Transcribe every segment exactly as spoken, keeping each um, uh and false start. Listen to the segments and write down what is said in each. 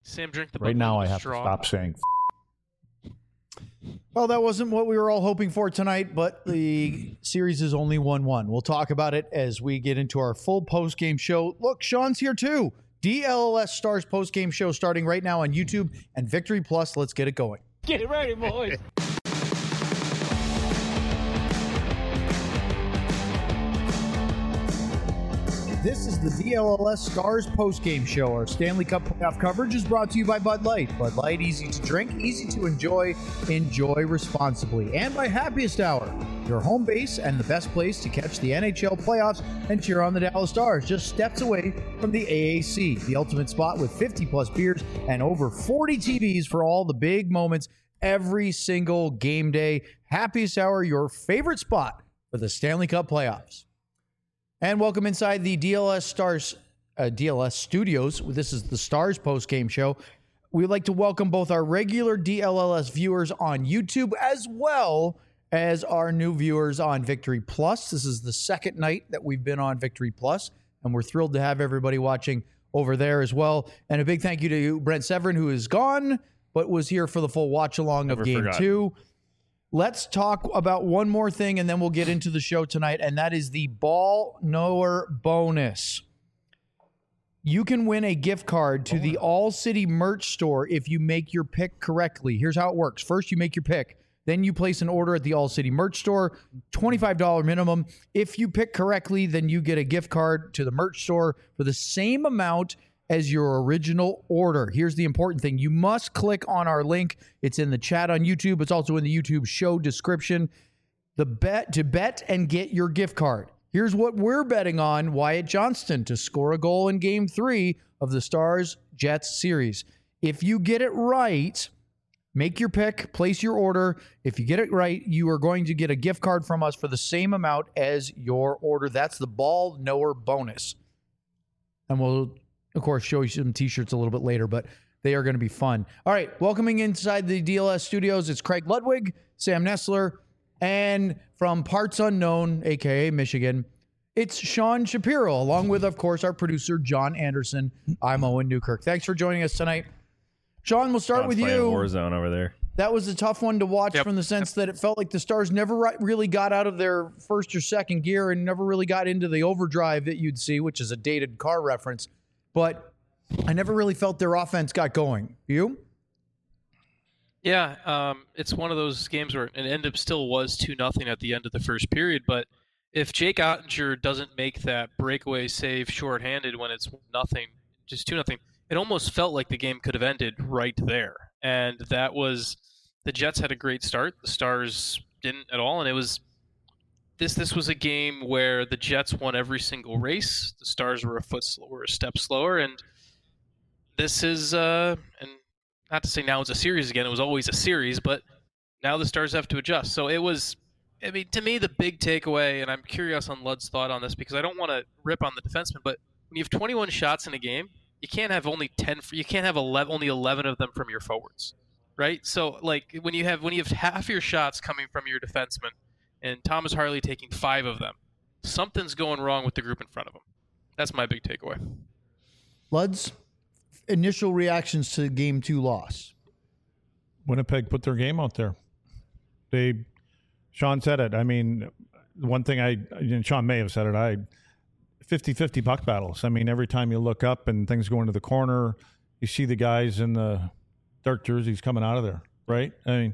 Sam, drink the Right now, I have straw. to stop saying. Well, that wasn't what we were all hoping for tonight, but the series is only one one. We'll talk about it as we get into our full post-game show. Look, Sean's here too. D L L S Stars post-game show starting right now on YouTube and Victory Plus. Let's get it going. Get ready, boys. This is the D L L S Stars postgame show. Our Stanley Cup playoff coverage is brought to you by Bud Light. Bud Light, easy to drink, easy to enjoy, enjoy responsibly. And by Happiest Hour, your home base and the best place to catch the N H L playoffs and cheer on the Dallas Stars. Just steps away from the A A C, the ultimate spot with fifty plus beers and over forty T Vs for all the big moments every single game day. Happiest Hour, your favorite spot for the Stanley Cup playoffs. And welcome inside the D L S Stars, uh, D L S Studios. This is the Stars post-game show. We'd like to welcome both our regular D L L S viewers on YouTube as well as our new viewers on Victory Plus. This is the second night that we've been on Victory Plus, and we're thrilled to have everybody watching over there as well. And a big thank you to Brent Severin, who is gone, but was here for the full watch-along of Never Game forgot. two. Let's talk about one more thing, and then we'll get into the show tonight, and that is the Ball Knower bonus. You can win a gift card to the All City merch store if you make your pick correctly. Here's how it works. First, you make your pick. Then you place an order at the All City merch store, twenty-five dollars minimum. If you pick correctly, then you get a gift card to the merch store for the same amount as your original order. Here's the important thing. You must click on our link. It's in the chat on YouTube. It's also in the YouTube show description. The bet to bet and get your gift card. Here's what we're betting on: Wyatt Johnston to score a goal in game three of the Stars Jets series. If you get it right, make your pick, place your order. If you get it right, you are going to get a gift card from us for the same amount as your order. That's the Ball Knower bonus. And we'll, of course, show you some t-shirts a little bit later, but they are going to be fun. All right, welcoming inside the D L S studios, it's Craig Ludwig, Sam Nestler, and from Parts Unknown, a k a. Michigan, it's Sean Shapiro, along with, of course, our producer, John Anderson. I'm Owen Newkirk. Thanks for joining us tonight. Sean, we'll start John's with playing you. Warzone over there. That was a tough one to watch Yep. from the sense that it felt like the Stars never ri- really got out of their first or second gear and never really got into the overdrive that you'd see, which is a dated car reference. But I never really felt their offense got going. You? Yeah, um, it's one of those games where it ended up still was two nothing at the end of the first period. But if Jake Ottinger doesn't make that breakaway save shorthanded when it's nothing, just two nothing, it almost felt like the game could have ended right there. And that was the Jets had a great start. The Stars didn't at all, and it was this. This was a game where the Jets won every single race. The Stars were a foot slower, a step slower, and this is uh, and. Not to say now it's a series again. It was always a series, but now the Stars have to adjust. So it was, I mean, to me, the big takeaway, and I'm curious on Lud's thought on this because I don't want to rip on the defenseman, but when you have twenty-one shots in a game, you can't have only ten. You can't have eleven, only eleven of them from your forwards, right? So like when you have when you have half your shots coming from your defenseman, and Thomas Harley taking five of them, something's going wrong with the group in front of him. That's my big takeaway. Luds, initial reactions to game two loss. Winnipeg put their game out there. They, Sean said it. I mean, one thing I, and Sean may have said it, I, fifty-fifty puck battles. I mean, every time you look up and things go into the corner, you see the guys in the dark jerseys coming out of there, right? I mean,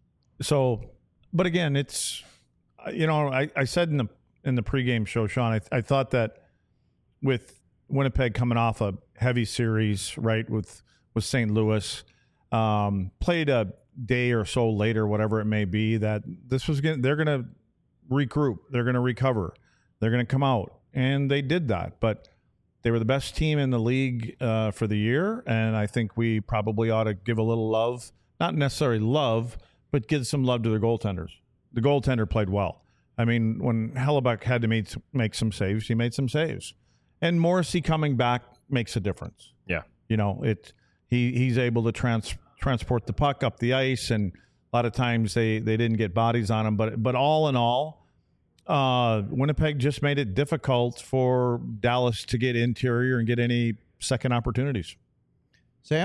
so, but again, it's, you know, I, I said in the in the pregame show, Sean, I, I thought that with Winnipeg coming off a heavy series, right, with with Saint Louis, um, played a day or so later, whatever it may be, that this was gonna, they're going to regroup, they're going to recover, they're going to come out, and they did that. But they were the best team in the league uh, for the year, and I think we probably ought to give a little love, not necessarily love, but give some love to the goaltenders. The goaltender played well. I mean, when Hellebuck had to make, make some saves, he made some saves. And Morrissey coming back makes a difference. Yeah. You know, it he he's able to trans, transport the puck up the ice, and a lot of times they, they didn't get bodies on him. But but all in all, uh, Winnipeg just made it difficult for Dallas to get interior and get any second opportunities. Sam,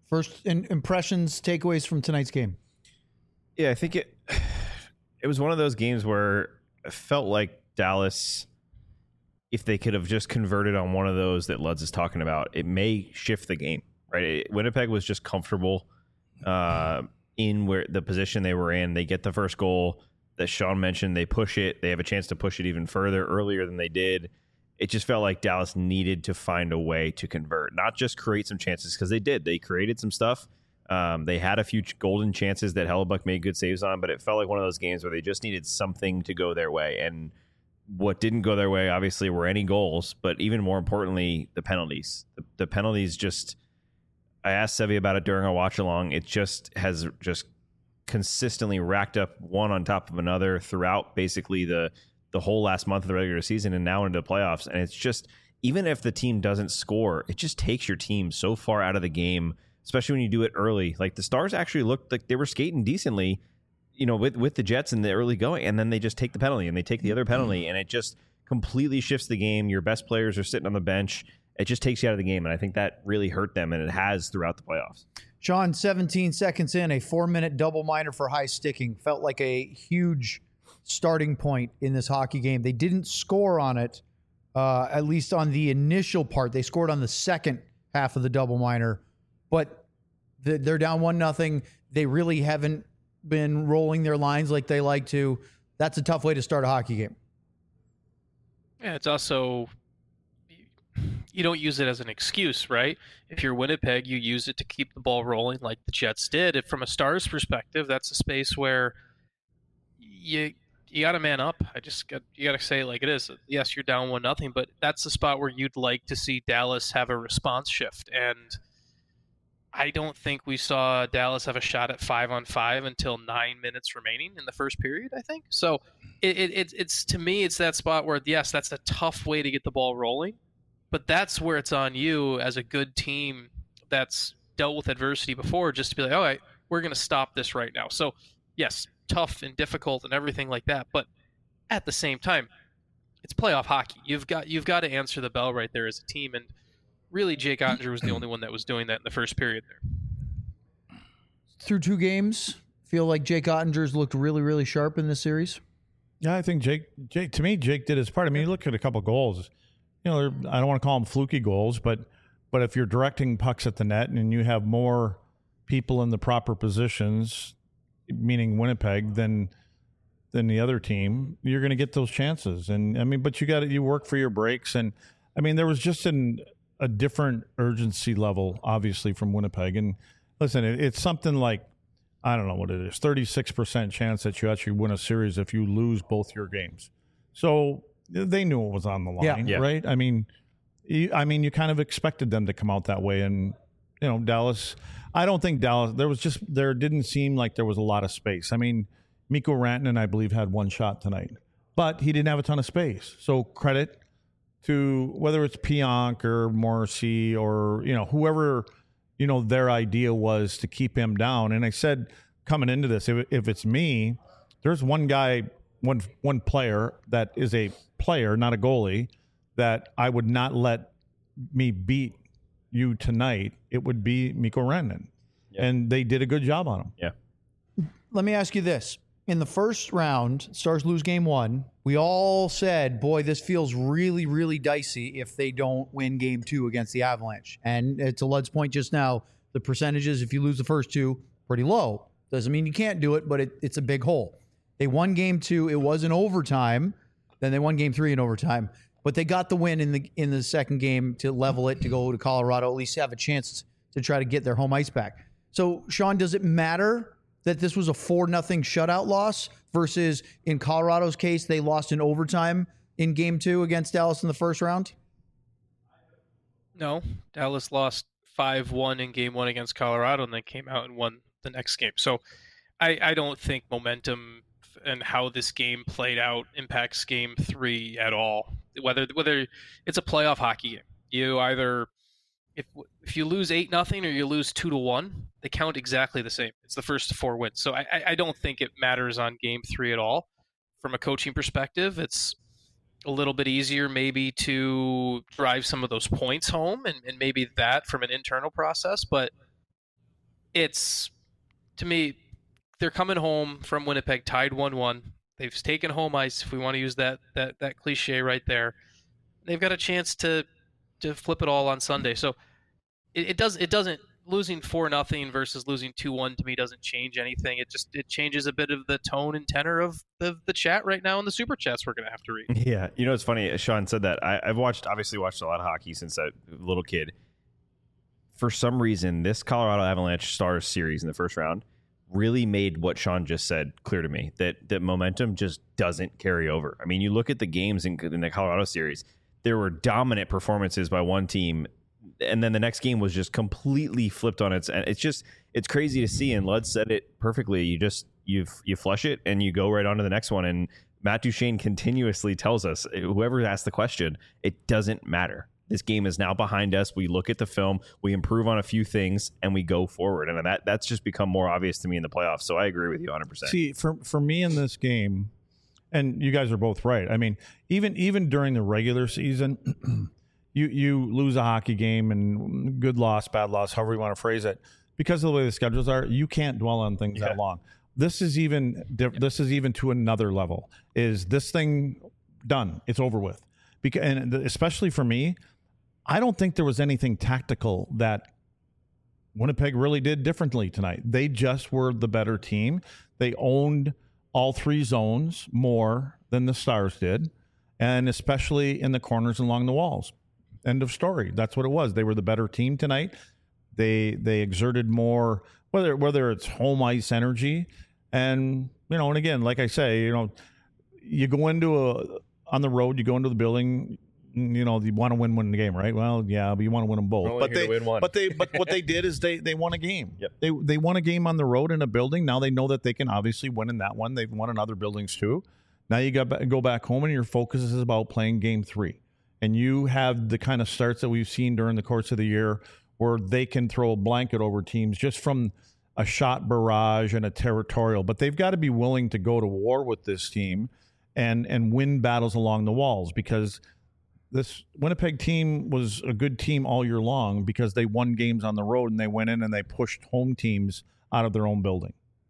First in, impressions, takeaways from tonight's game. Yeah, I think it it was one of those games where it felt like Dallas, if they could have just converted on one of those that Luds is talking about, it may shift the game, right? It, Winnipeg was just comfortable uh, in where the position they were in. They get the first goal that Sean mentioned. They push it. They have a chance to push it even further earlier than they did. It just felt like Dallas needed to find a way to convert, not just create some chances, because they did. They created some stuff. Um, they had a few golden chances that Hellebuck made good saves on, but it felt like one of those games where they just needed something to go their way. And what didn't go their way, obviously, were any goals, but even more importantly, the penalties. The, the penalties just, I asked Sevy about it during our watch along. It just has just consistently racked up one on top of another throughout basically the the whole last month of the regular season and now into the playoffs. And it's just, even if the team doesn't score, it just takes your team so far out of the game, especially when you do it early. Like the Stars actually looked like they were skating decently, you know, with, with the Jets in the early going, and then they just take the penalty and they take the other penalty, and it just completely shifts the game. Your best players are sitting on the bench. It just takes you out of the game, and I think that really hurt them, and it has throughout the playoffs. Sean, seventeen seconds in, a four-minute double minor for high sticking. Felt like a huge starting point in this hockey game. They didn't score on it, uh, at least on the initial part. They scored on the second half of the double minor, but the, they're down one nothing. They really haven't been rolling their lines like they like to. That's a tough way to start a hockey game. Yeah, it's also, you don't use it as an excuse, right? If you're Winnipeg, you use it to keep the ball rolling like the Jets did. If from a Stars perspective, that's a space where you you got to man up. I just got you got to say it like it is. Yes, you're down one nothing, but that's the spot where you'd like to see Dallas have a response shift. And I don't think we saw Dallas have a shot at five on five until nine minutes remaining in the first period, I think. So it, it, it it's to me, it's that spot where, yes, that's a tough way to get the ball rolling, but that's where it's on you as a good team that's dealt with adversity before, just to be like, all right, we're going to stop this right now. So yes, tough and difficult and everything like that, but at the same time, it's playoff hockey. You've got you've got to answer the bell right there as a team, and really Jake Oettinger was the only one that was doing that in the first period there. Through two games, feel like Jake Ottinger's looked really, really sharp in this series. Yeah, I think Jake, Jake, to me, Jake did his part. I mean, you look at a couple goals. You know, I don't want to call them fluky goals, but but if you're directing pucks at the net and you have more people in the proper positions, meaning Winnipeg, than than the other team, you're going to get those chances. And I mean, but you got to you work for your breaks. And I mean, there was just an a different urgency level, obviously, from Winnipeg. And listen, it, it's something like, I don't know what it is, thirty-six percent chance that you actually win a series if you lose both your games. So they knew it was on the line, Yeah. Yeah. right? I mean, you, I mean, you kind of expected them to come out that way. And, you know, Dallas, I don't think Dallas, there was just, there didn't seem like there was a lot of space. I mean, Mikko Rantanen, I believe, had one shot tonight, but he didn't have a ton of space. So credit to whether it's Pionk or Morrissey or, you know, whoever, you know, their idea was to keep him down. And I said, coming into this, if, if it's me, there's one guy, one one player that is a player, not a goalie, that I would not let me beat you tonight. It would be Mikko Rantanen. Yeah. And they did a good job on him. Yeah. Let me ask you this. In the first round, Stars lose game one. We all said, boy, this feels really, really dicey if they don't win game two against the Avalanche. And uh, to Lud's point just now, the percentages, if you lose the first two, pretty low. Doesn't mean you can't do it, but it, it's a big hole. They won game two. It was in overtime. Then they won game three in overtime. But they got the win in the in the second game to level it, to go to Colorado, at least have a chance to try to get their home ice back. So, Sean, does it matter that this was a four nothing shutout loss versus, in Colorado's case, they lost in overtime in game two against Dallas in the first round? No, Dallas lost five one in game one against Colorado and then came out and won the next game. So I, I don't think momentum and how this game played out impacts game three at all. Whether whether it's a playoff hockey game, you either if if you lose eight nothing or you lose two to one, they count exactly the same. It's the first to four wins. So I, I don't think it matters on game three at all. From a coaching perspective, it's a little bit easier maybe to drive some of those points home, and, and maybe that from an internal process. But it's, to me, they're coming home from Winnipeg tied one one. They've taken home ice, if we want to use that that that cliche right there. They've got a chance to to flip it all on Sunday. So it, it does it doesn't losing four nothing versus losing two one to me doesn't change anything. It just it changes a bit of the tone and tenor of the the chat right now in the super chats we're gonna have to read. Yeah, you know it's funny. Sean said that. I, I've watched obviously watched a lot of hockey since a little kid. For some reason, this Colorado Avalanche Stars series in the first round really made what Sean just said clear to me, that that momentum just doesn't carry over. I mean, you look at the games in, in the Colorado series, there were dominant performances by one team, and then the next game was just completely flipped on its. And it's just it's crazy to see. And Lud said it perfectly. You just you you flush it and you go right on to the next one. And Matt Duchene continuously tells us, whoever asked the question, it doesn't matter. This game is now behind us. We look at the film, we improve on a few things, and we go forward. And that that's just become more obvious to me in the playoffs. So I agree with you one hundred percent. See, for for me in this game, and you guys are both right. I mean, even even during the regular season, you you lose a hockey game and good loss, bad loss, however you want to phrase it, because of the way the schedules are, you can't dwell on things Yeah. that long. This is even diff- this is even to another level. Is this thing done? It's over with. Because and especially for me, I don't think there was anything tactical that Winnipeg really did differently tonight. They just were the better team. They owned all three zones more than the Stars did, and especially in the corners and along the walls. End of story. That's what it was. They were the better team tonight. They they exerted more, whether whether it's home ice energy, and you know, and again, like I say, you know, you go into a on the road, you go into the building. You know, you want to win, win the game, right? Well, yeah, but you want to win them both. Only But here to they, win one. but they, but what they did is they they won a game. Yep. They they won a game on the road in a building. Now they know that they can obviously win in that one. They've won in other buildings too. Now you got to go back home, and your focus is about playing game three. And you have the kind of starts that we've seen during the course of the year, where they can throw a blanket over teams just from a shot barrage and a territorial. But they've got to be willing to go to war with this team and and win battles along the walls, because this Winnipeg team was a good team all year long because they won games on the road and they went in and they pushed home teams out of their own building.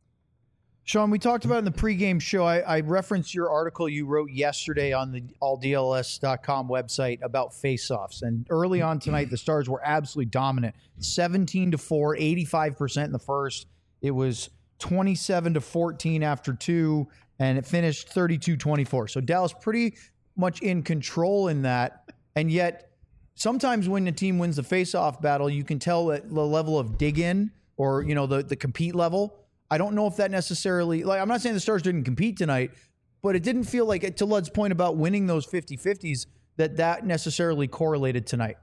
Sean, we talked about in the pregame show, I, I referenced your article you wrote yesterday on the all D L S dot com website about faceoffs. And early on tonight, the Stars were absolutely dominant. seventeen to four, eighty-five percent in the first. It was twenty-seven to fourteen after two, and it finished thirty-two twenty-four. So Dallas pretty much in control in that. And yet, sometimes when a team wins the faceoff battle, you can tell that the level of dig in, or, you know, the, the compete level. I don't know if that necessarily, like, I'm not saying the Stars didn't compete tonight, but it didn't feel like, to Lud's point about winning those fifty-fifties, that that necessarily correlated tonight.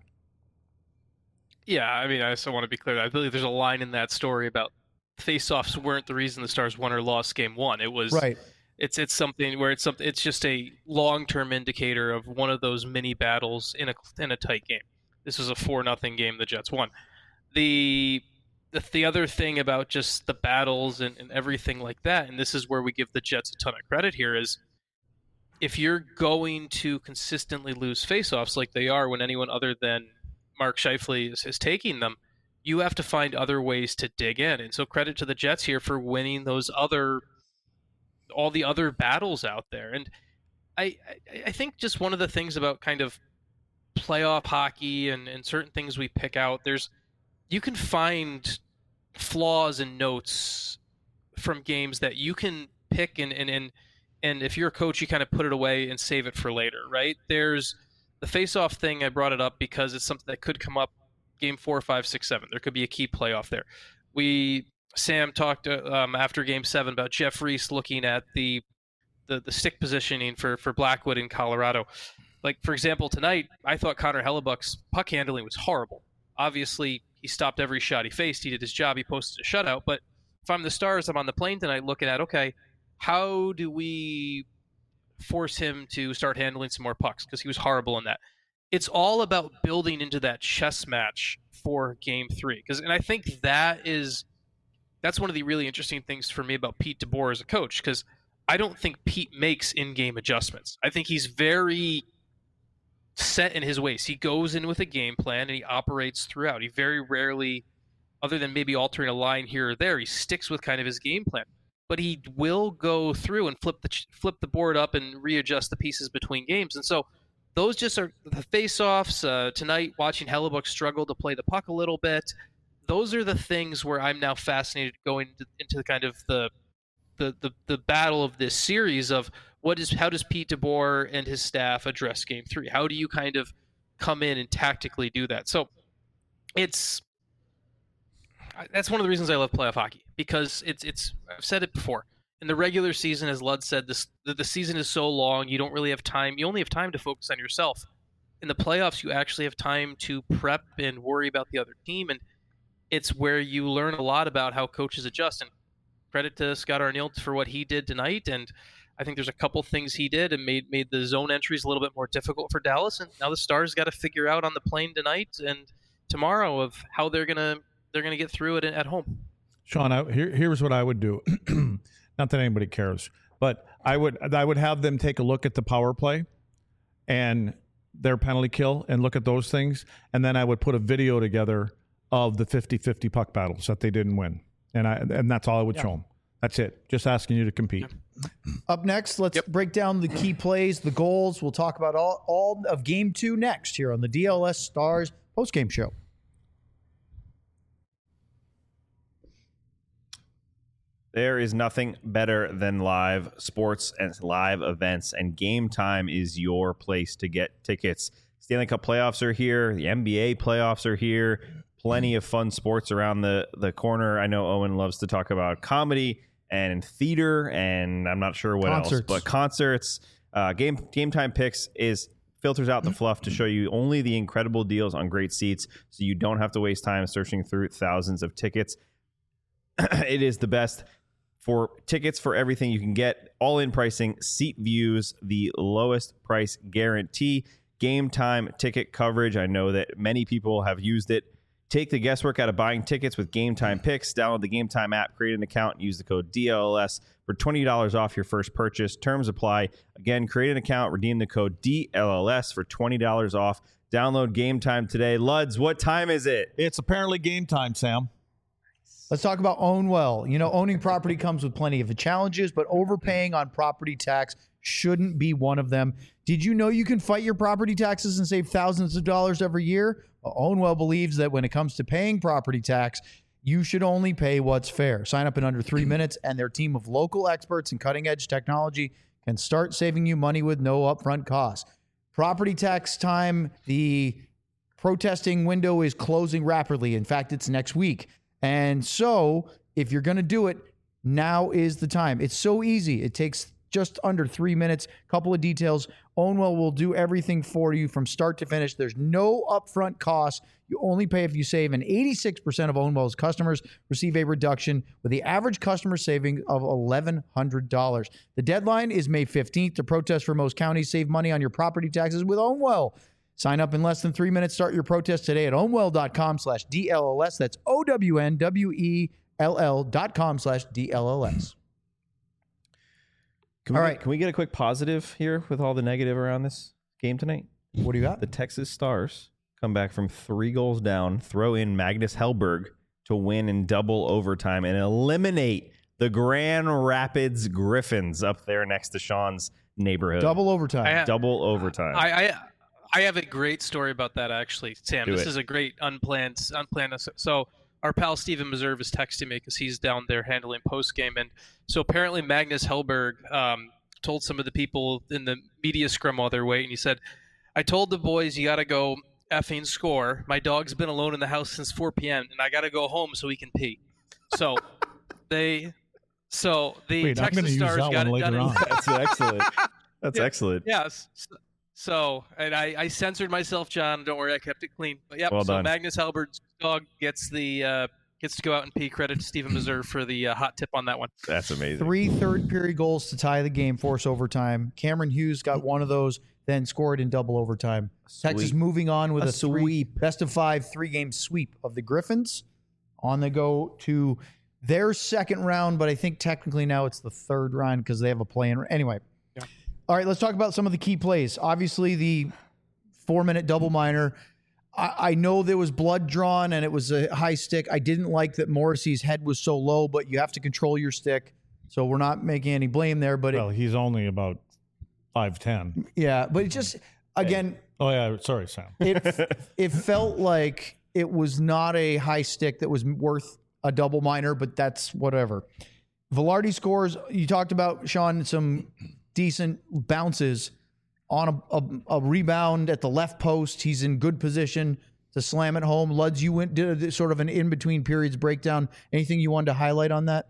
Yeah, I mean, I also want to be clear. I believe there's a line in that story about face-offs weren't the reason the Stars won or lost game one. It was Right. It's it's something where it's something. It's just a long-term indicator of one of those mini battles in a in a tight game. This was a four nothing game. The Jets won. The the, the other thing about just the battles and, and everything like that, and this is where we give the Jets a ton of credit here, is if you're going to consistently lose faceoffs like they are when anyone other than Mark Scheifele is, is taking them, you have to find other ways to dig in. And so credit to the Jets here for winning those other, all the other battles out there. And I, I, I think just one of the things about kind of playoff hockey and, and certain things we pick out, there's, you can find flaws and notes from games that you can pick and, and, and, and if you're a coach, you kind of put it away and save it for later, right? There's the face-off thing. I brought it up because it's something that could come up game four, five, six, seven. There could be a key playoff there. We, Sam talked um, after game seven about Jeff Reese looking at the, the, the stick positioning for, for Blackwood in Colorado. Like, for example, tonight, I thought Connor Hellebuck's puck handling was horrible. Obviously, he stopped every shot he faced. He did his job. He posted a shutout. But if I'm the Stars, I'm on the plane tonight looking at, okay, how do we force him to start handling some more pucks? Because he was horrible in that. It's all about building into that chess match for game three. Because, and I think that is, that's one of the really interesting things for me about Pete DeBoer as a coach. Because I don't think Pete makes in-game adjustments. I think he's very set in his ways. He goes in with a game plan and he operates throughout. He very rarely other than maybe altering a line here or there, he sticks with kind of his game plan. But he will go through and flip the flip the board up and readjust the pieces between games. And so those just are the face-offs. Uh, tonight, watching Hellebuck struggle to play the puck a little bit, those are the things where I'm now fascinated going into, into kind of the, the the the battle of this series of what is how does Pete DeBoer and his staff address Game Three? How do you kind of come in and tactically do that? So it's that's one of the reasons I love playoff hockey, because it's it's I've said it before. In the regular season, as Lud said, this the, the season is so long, you don't really have time. You only have time to focus on yourself. In the playoffs, you actually have time to prep and worry about the other team, and it's where you learn a lot about how coaches adjust. And credit to Scott Arniel for what he did tonight, and I think there's a couple things he did and made made the zone entries a little bit more difficult for Dallas. And now the Stars got to figure out on the plane tonight and tomorrow of how they're gonna they're gonna get through it at home. Sean, I, here, here's what I would do. Not that anybody cares, but I would I would have them take a look at the power play and their penalty kill and look at those things, and then I would put a video together of the fifty-fifty puck battles that they didn't win, and I and that's all I would yeah. show them. That's it. Just asking you to compete. Up next, let's yep. break down the key plays, the goals. We'll talk about all, all of Game two next here on the D L S Stars postgame show. There is nothing better than live sports and live events, and Game Time is your place to get tickets. Stanley Cup playoffs are here. The N B A playoffs are here. Plenty of fun sports around the, the corner. I know Owen loves to talk about comedy and theater, and I'm not sure what concerts. else, but concerts. Uh, game Game Time Picks is filters out the fluff to show you only the incredible deals on great seats, so you don't have to waste time searching through thousands of tickets. It is the best for tickets for everything you can get. All-in pricing, seat views, the lowest price guarantee, Game Time ticket coverage. I know that many people have used it. Take the guesswork out of buying tickets with Game Time Picks. Download the Game Time app, create an account, and use the code D L L S for twenty dollars off your first purchase. Terms apply. Again, create an account, redeem the code D L L S for twenty dollars off. Download Game Time today. Luds, what time is it? It's apparently game time, Sam. Let's talk about Own Well. You know, owning property comes with plenty of challenges, but overpaying on property tax shouldn't be one of them. Did you know you can fight your property taxes and save thousands of dollars every year? Well, Own Well believes that when it comes to paying property tax, you should only pay what's fair. Sign up in under three minutes, and their team of local experts in cutting-edge technology can start saving you money with no upfront costs. Property tax time, the protesting window is closing rapidly. In fact, it's next week. And so if you're going to do it, now is the time. It's so easy. It takes just under three minutes. Couple of details. Ownwell will do everything for you from start to finish. There's no upfront costs. You only pay if you save, and eighty-six percent of Ownwell's customers receive a reduction with the average customer saving of eleven hundred dollars. The deadline is May fifteenth to protest for most counties. Save money on your property taxes with Ownwell. Sign up in less than three minutes. Start your protest today at ownwell.com slash DLLS. That's O-W-N-W-E-L-L dot com slash D-L-L-S. Can we, all get, right. Can we get a quick positive here with all the negative around this game tonight? What do you got? The Texas Stars come back from three goals down, throw in Magnus Hellberg to win in double overtime and eliminate the Grand Rapids Griffins up there next to Sean's neighborhood. Double overtime. I, double overtime. I, I I have a great story about that, actually, Sam. Do this it. is a great unplanned unplanned. So our pal Steven Meserve is texting me because he's down there handling post game, and so apparently Magnus Hellberg um, told some of the people in the media scrum while they're waiting. He said, "I told the boys you got to go effing score. My dog's been alone in the house since four p.m. and I got to go home so he can pee." So they, so the Wait, Texas I'm gonna Stars use that got one it later done. on. That's excellent. That's Yeah. excellent. Yes. So, and I, I censored myself, John. Don't worry, I kept it clean. But yep. Well so done. Magnus Hellberg's dog gets the uh, gets to go out and pee. Credit to Steven Meserve for the uh, hot tip on that one. That's amazing. Three third period goals to tie the game, force overtime. Cameron Hughes got one of those, then scored in double overtime. Texas Sweep. moving on with A a, three, sweep. best of five, three game sweep of the Griffins. On the go to their second round, but I think technically now it's the third round because they have a play-in. Anyway. Yeah. All right, let's talk about some of the key plays. Obviously, the four-minute double minor. I, I know there was blood drawn and it was a high stick. I didn't like that Morrissey's head was so low, but you have to control your stick. So we're not making any blame there. But Well, it, he's only about five ten. yeah, but it just, again, Oh, yeah. Sorry, Sam. it it felt like it was not a high stick that was worth a double minor, but that's whatever. Velarde scores. You talked about, Sean, some decent bounces on a, a, a rebound at the left post. He's in good position to slam it home. Luds, you went did a, sort of an in-between periods breakdown. Anything you wanted to highlight on that?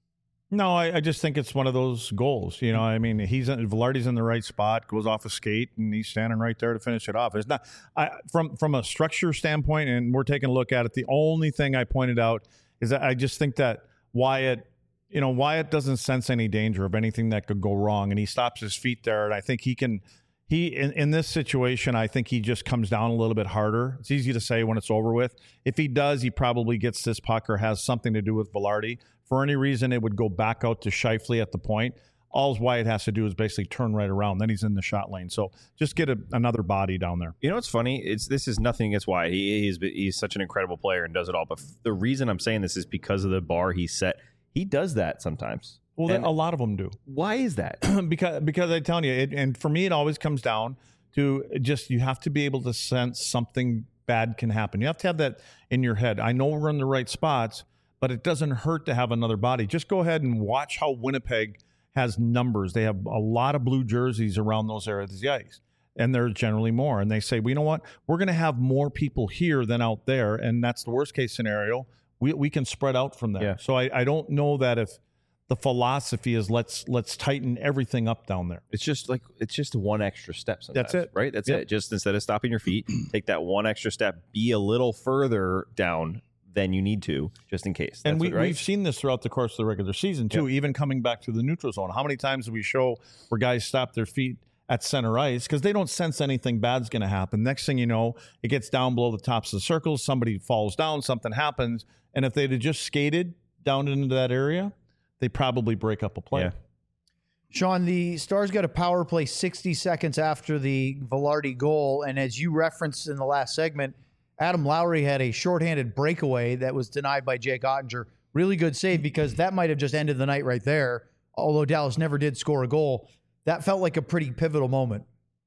No, I, I just think it's one of those goals. You know, I mean, he's Velarde's in the right spot, goes off a skate, and he's standing right there to finish it off. It's not I, from from a structure standpoint, and we're taking a look at it. The only thing I pointed out is that I just think that Wyatt, you know, Wyatt doesn't sense any danger of anything that could go wrong, and he stops his feet there, and I think he can. He in, in this situation, I think he just comes down a little bit harder. It's easy to say when it's over with. If he does, he probably gets this puck or has something to do with Velarde. For any reason, it would go back out to Scheifele at the point. All Wyatt has to do is basically turn right around. Then he's in the shot lane. So just get a, another body down there. You know what's funny? It's this is nothing against Wyatt. He, he's he's such an incredible player and does it all. But the reason I'm saying this is because of the bar he set. He does that sometimes. Well, And a lot of them do. why is that? because because I'm telling you, it, and for me, it always comes down to just you have to be able to sense something bad can happen. You have to have that in your head. I know we're in the right spots, but it doesn't hurt to have another body. Just go ahead and watch how Winnipeg has numbers. They have a lot of blue jerseys around those areas of the ice, and there's generally more. And they say, well, you know what? We're going to have more people here than out there, and that's the worst case scenario. We we can spread out from there. Yeah. So I, I don't know that if the philosophy is let's let's tighten everything up down there. It's just like it's just one extra step sometimes. That's it. Right? That's Yep. it. Just instead of stopping your feet, take that one extra step, be a little further down than you need to, just in case. And That's we, what- right? we've seen this throughout the course of the regular season, too, even coming back to the neutral zone. How many times do we show where guys stop their feet at center ice because they don't sense anything bad's going to happen? Next thing you know, it gets down below the tops of the circles. Somebody falls down, something happens. And if they'd have just skated down into that area, they probably break up a play. Yeah. Sean, the Stars got a power play sixty seconds after the Velarde goal. And as you referenced in the last segment, Adam Lowry had a shorthanded breakaway that was denied by Jake Ottinger. Really good save because that might have just ended the night right there. Although Dallas never did score a goal, that felt like a pretty pivotal moment.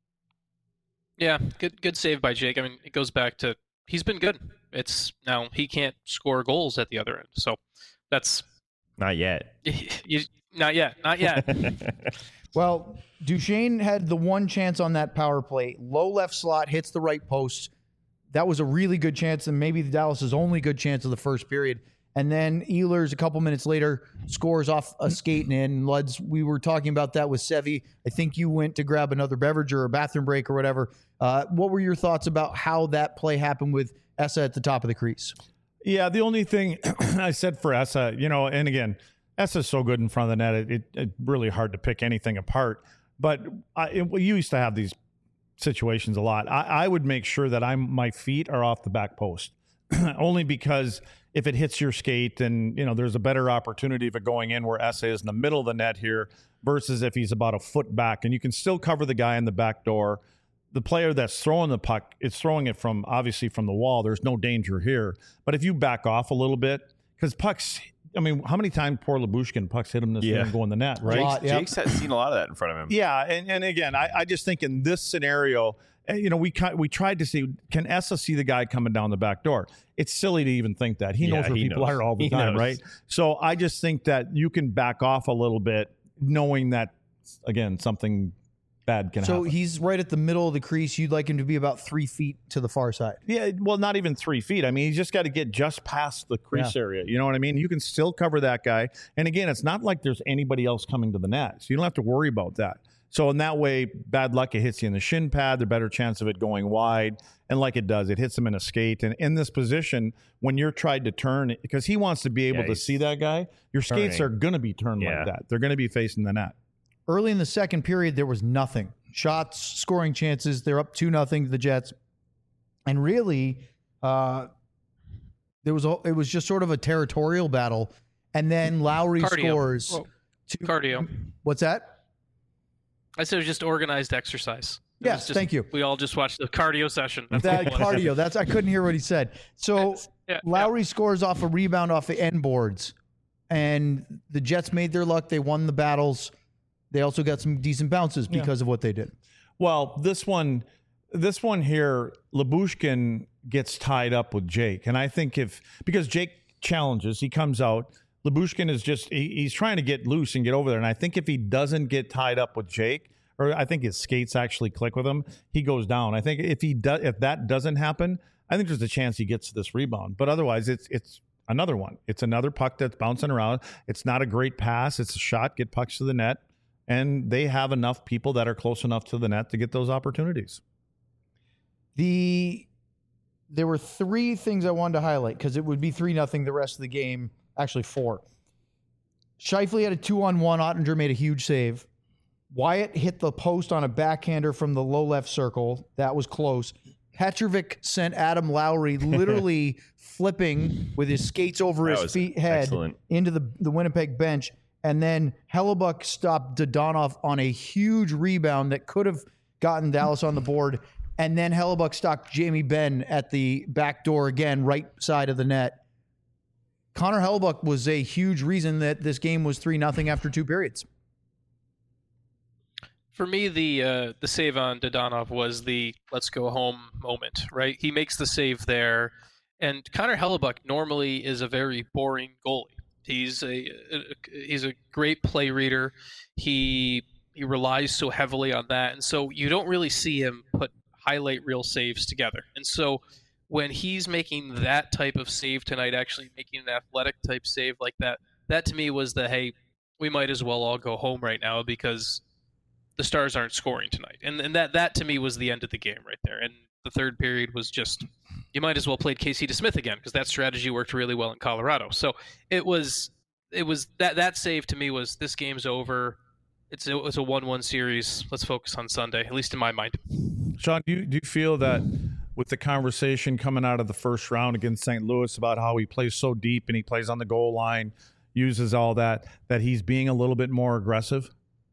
Yeah, good good save by Jake. I mean, it goes back to he's been good. It's now he can't score goals at the other end. So that's Not yet. you, not yet, not yet. Well, Duchesne had the one chance on that power play. Low left slot, hits the right post. That was a really good chance, and maybe Dallas's only good chance of the first period. And then Ehlers, a couple minutes later, scores off a skate and in. Luds, we were talking about that with Sevy. I think you went to grab another beverage or a bathroom break or whatever. Uh, what were your thoughts about how that play happened with Essa at the top of the crease? Yeah, the only thing I said for Essa, you know, and again, Essa's so good in front of the net, it, it, it's really hard to pick anything apart. But I, it, well, you used to have these situations a lot. I, I would make sure that I'm my feet are off the back post, only because if it hits your skate, then you know there's a better opportunity of it going in where Essa is in the middle of the net here versus if he's about a foot back, and you can still cover the guy in the back door. The player that's throwing the puck, it's throwing it from obviously from the wall. There's no danger here. But if you back off a little bit, because pucks, I mean, how many times poor Labushkin pucks hit him this Yeah. year and go in the net, right? A lot. Yep. Jake's had seen a lot of that in front of him. Yeah, and, and again, I, I just think in this scenario, eh, you know, we ki- we tried to see, can Essa see the guy coming down the back door? It's silly to even think that. He Yeah, knows where he people knows. are all the He time, knows. right? So I just think that you can back off a little bit knowing that, again, something bad can So happen. he's right at the middle of the crease. You'd like him to be about three feet to the far side. Yeah, well, not even three feet. I mean, he's just got to get just past the crease area. You know what I mean? You can still cover that guy. And again, it's not like there's anybody else coming to the net, so you don't have to worry about that. So in that way, bad luck, it hits you in the shin pad, the better chance of it going wide. And like it does, it hits him in a skate. And in this position, when you're tried to turn, because he wants to be able Yeah, to he's see that guy, your skates turning. are going to be turned Yeah. like that. They're going to be facing the net. Early in the second period, there was nothing. Shots, scoring chances. They're up two nothing to the Jets, and really, uh, there was a, it was just sort of a territorial battle. And then Lowry Cardio. scores. Whoa. Two, Cardio. What's that? I said it was just organized exercise. It Yes, was just- thank you. We all just watched the cardio session. That's That all it was. cardio. That's I couldn't hear what he said. So Yeah, Lowry scores off a rebound off the end boards, and the Jets made their luck. They won the battles. They also got some decent bounces because of what they did. Well, this one, this one here, Lyubushkin gets tied up with Jake, and I think if because Jake challenges, he comes out. Lyubushkin is just he, he's trying to get loose and get over there, and I think if he doesn't get tied up with Jake, or I think his skates actually click with him, he goes down. I think if he does, if that doesn't happen, I think there's a chance he gets this rebound. But otherwise, it's it's another one. It's another puck that's bouncing around. It's not a great pass. It's a shot. Get pucks to the net. And they have enough people that are close enough to the net to get those opportunities. The there were three things I wanted to highlight because it would be three nothing the rest of the game. Actually, four. Scheifele had a two on one. Ottinger made a huge save. Wyatt hit the post on a backhander from the low left circle. That was close. Petrovic sent Adam Lowry literally flipping with his skates over That his was feet head excellent. into the, the Winnipeg bench. And then Hellebuck stopped Dodonov on a huge rebound that could have gotten Dallas on the board. And then Hellebuck stopped Jamie Benn at the back door again, right side of the net. Connor Hellebuck was a huge reason that this game was three nothing after two periods. For me, the uh, the save on Dodonov was the let's go home moment, right? He makes the save there, and Connor Hellebuck normally is a very boring goalie. He's a, a he's a great play reader. He he relies so heavily on that, and so you don't really see him put highlight reel saves together. And so when he's making that type of save tonight, actually making an athletic type save like that, that to me was the hey, we might as well all go home right now because the Stars aren't scoring tonight. And and that that to me was the end of the game right there. And the third period was just, you might as well played Casey DeSmith again because that strategy worked really well in Colorado. So it was it was that that save to me was this game's over. It's a, it's a one one series. Let's focus on Sunday, at least in my mind. Sean, do you, do you feel that with the conversation coming out of the first round against Saint Louis about how he plays so deep and he plays on the goal line, uses all that, that he's being a little bit more aggressive?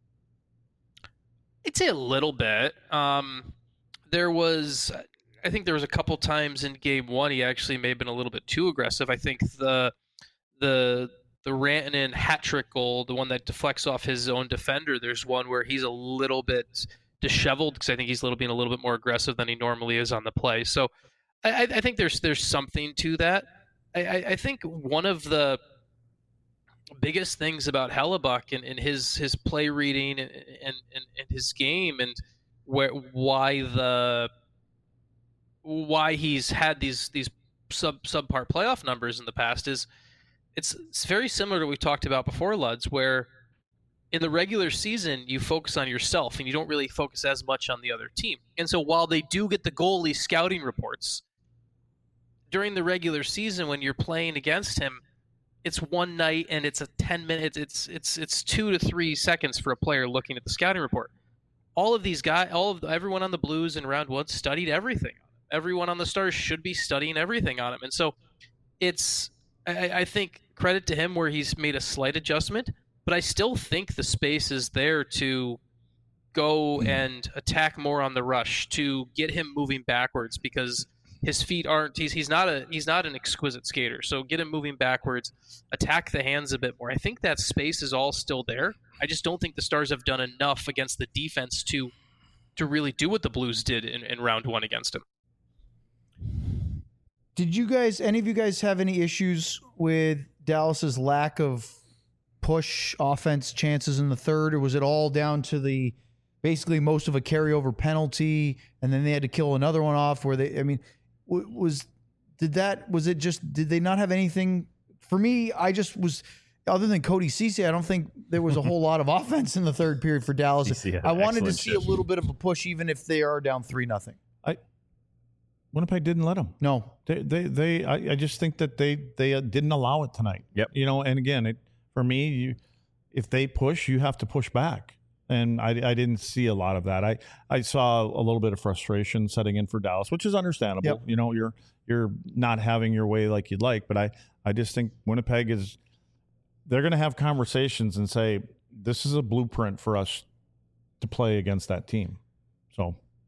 I'd say a little bit. Um, there was, I think there was a couple times in game one he actually may have been a little bit too aggressive. I think the the the Rantanen hat trick goal, the one that deflects off his own defender, there's one where he's a little bit disheveled because I think he's a little being a little bit more aggressive than he normally is on the play. So I, I think there's there's something to that. I, I, I think one of the biggest things about Hellebuck and, and his his play reading and, and, and his game and where why the why he's had these these sub subpar playoff numbers in the past is it's it's very similar to what we talked about before, Luds, where in the regular season you focus on yourself and you don't really focus as much on the other team. And so while they do get the goalie scouting reports during the regular season when you're playing against him, it's one night and it's a ten minutes. It's it's it's two to three seconds for a player looking at the scouting report. All of these guys, all of everyone on the Blues in round one studied everything. Everyone on the Stars should be studying everything on him, and so it's. I, I think credit to him where he's made a slight adjustment, but I still think the space is there to go and attack more on the rush to get him moving backwards because his feet aren't he's he's not a he's not an exquisite skater. So get him moving backwards, attack the hands a bit more. I think that space is all still there. I just don't think the Stars have done enough against the defense to to really do what the Blues did in, in round one against him. Did you guys, any of you guys have any issues with Dallas's lack of push offense chances in the third, or was it all down to the basically most of a carryover penalty and then they had to kill another one off where they, I mean, was, did that, was it just, did they not have anything? For me, I just was, other than Cody Ceci, I don't think there was a whole lot of offense in the third period for Dallas. Ceci had I an wanted to excellent see shift. a little bit of a push, even if they are down three nothing. I Winnipeg didn't let them. No, They, they, they. I, I just think that they, they uh, didn't allow it tonight. Yep. You know, and again, it for me, you, if they push, you have to push back, and I, I didn't see a lot of that. I, I saw a little bit of frustration setting in for Dallas, which is understandable. Yep. You know, you're, you're not having your way like you'd like, but I, I just think Winnipeg is. They're going to have conversations and say this is a blueprint for us to play against that team. So.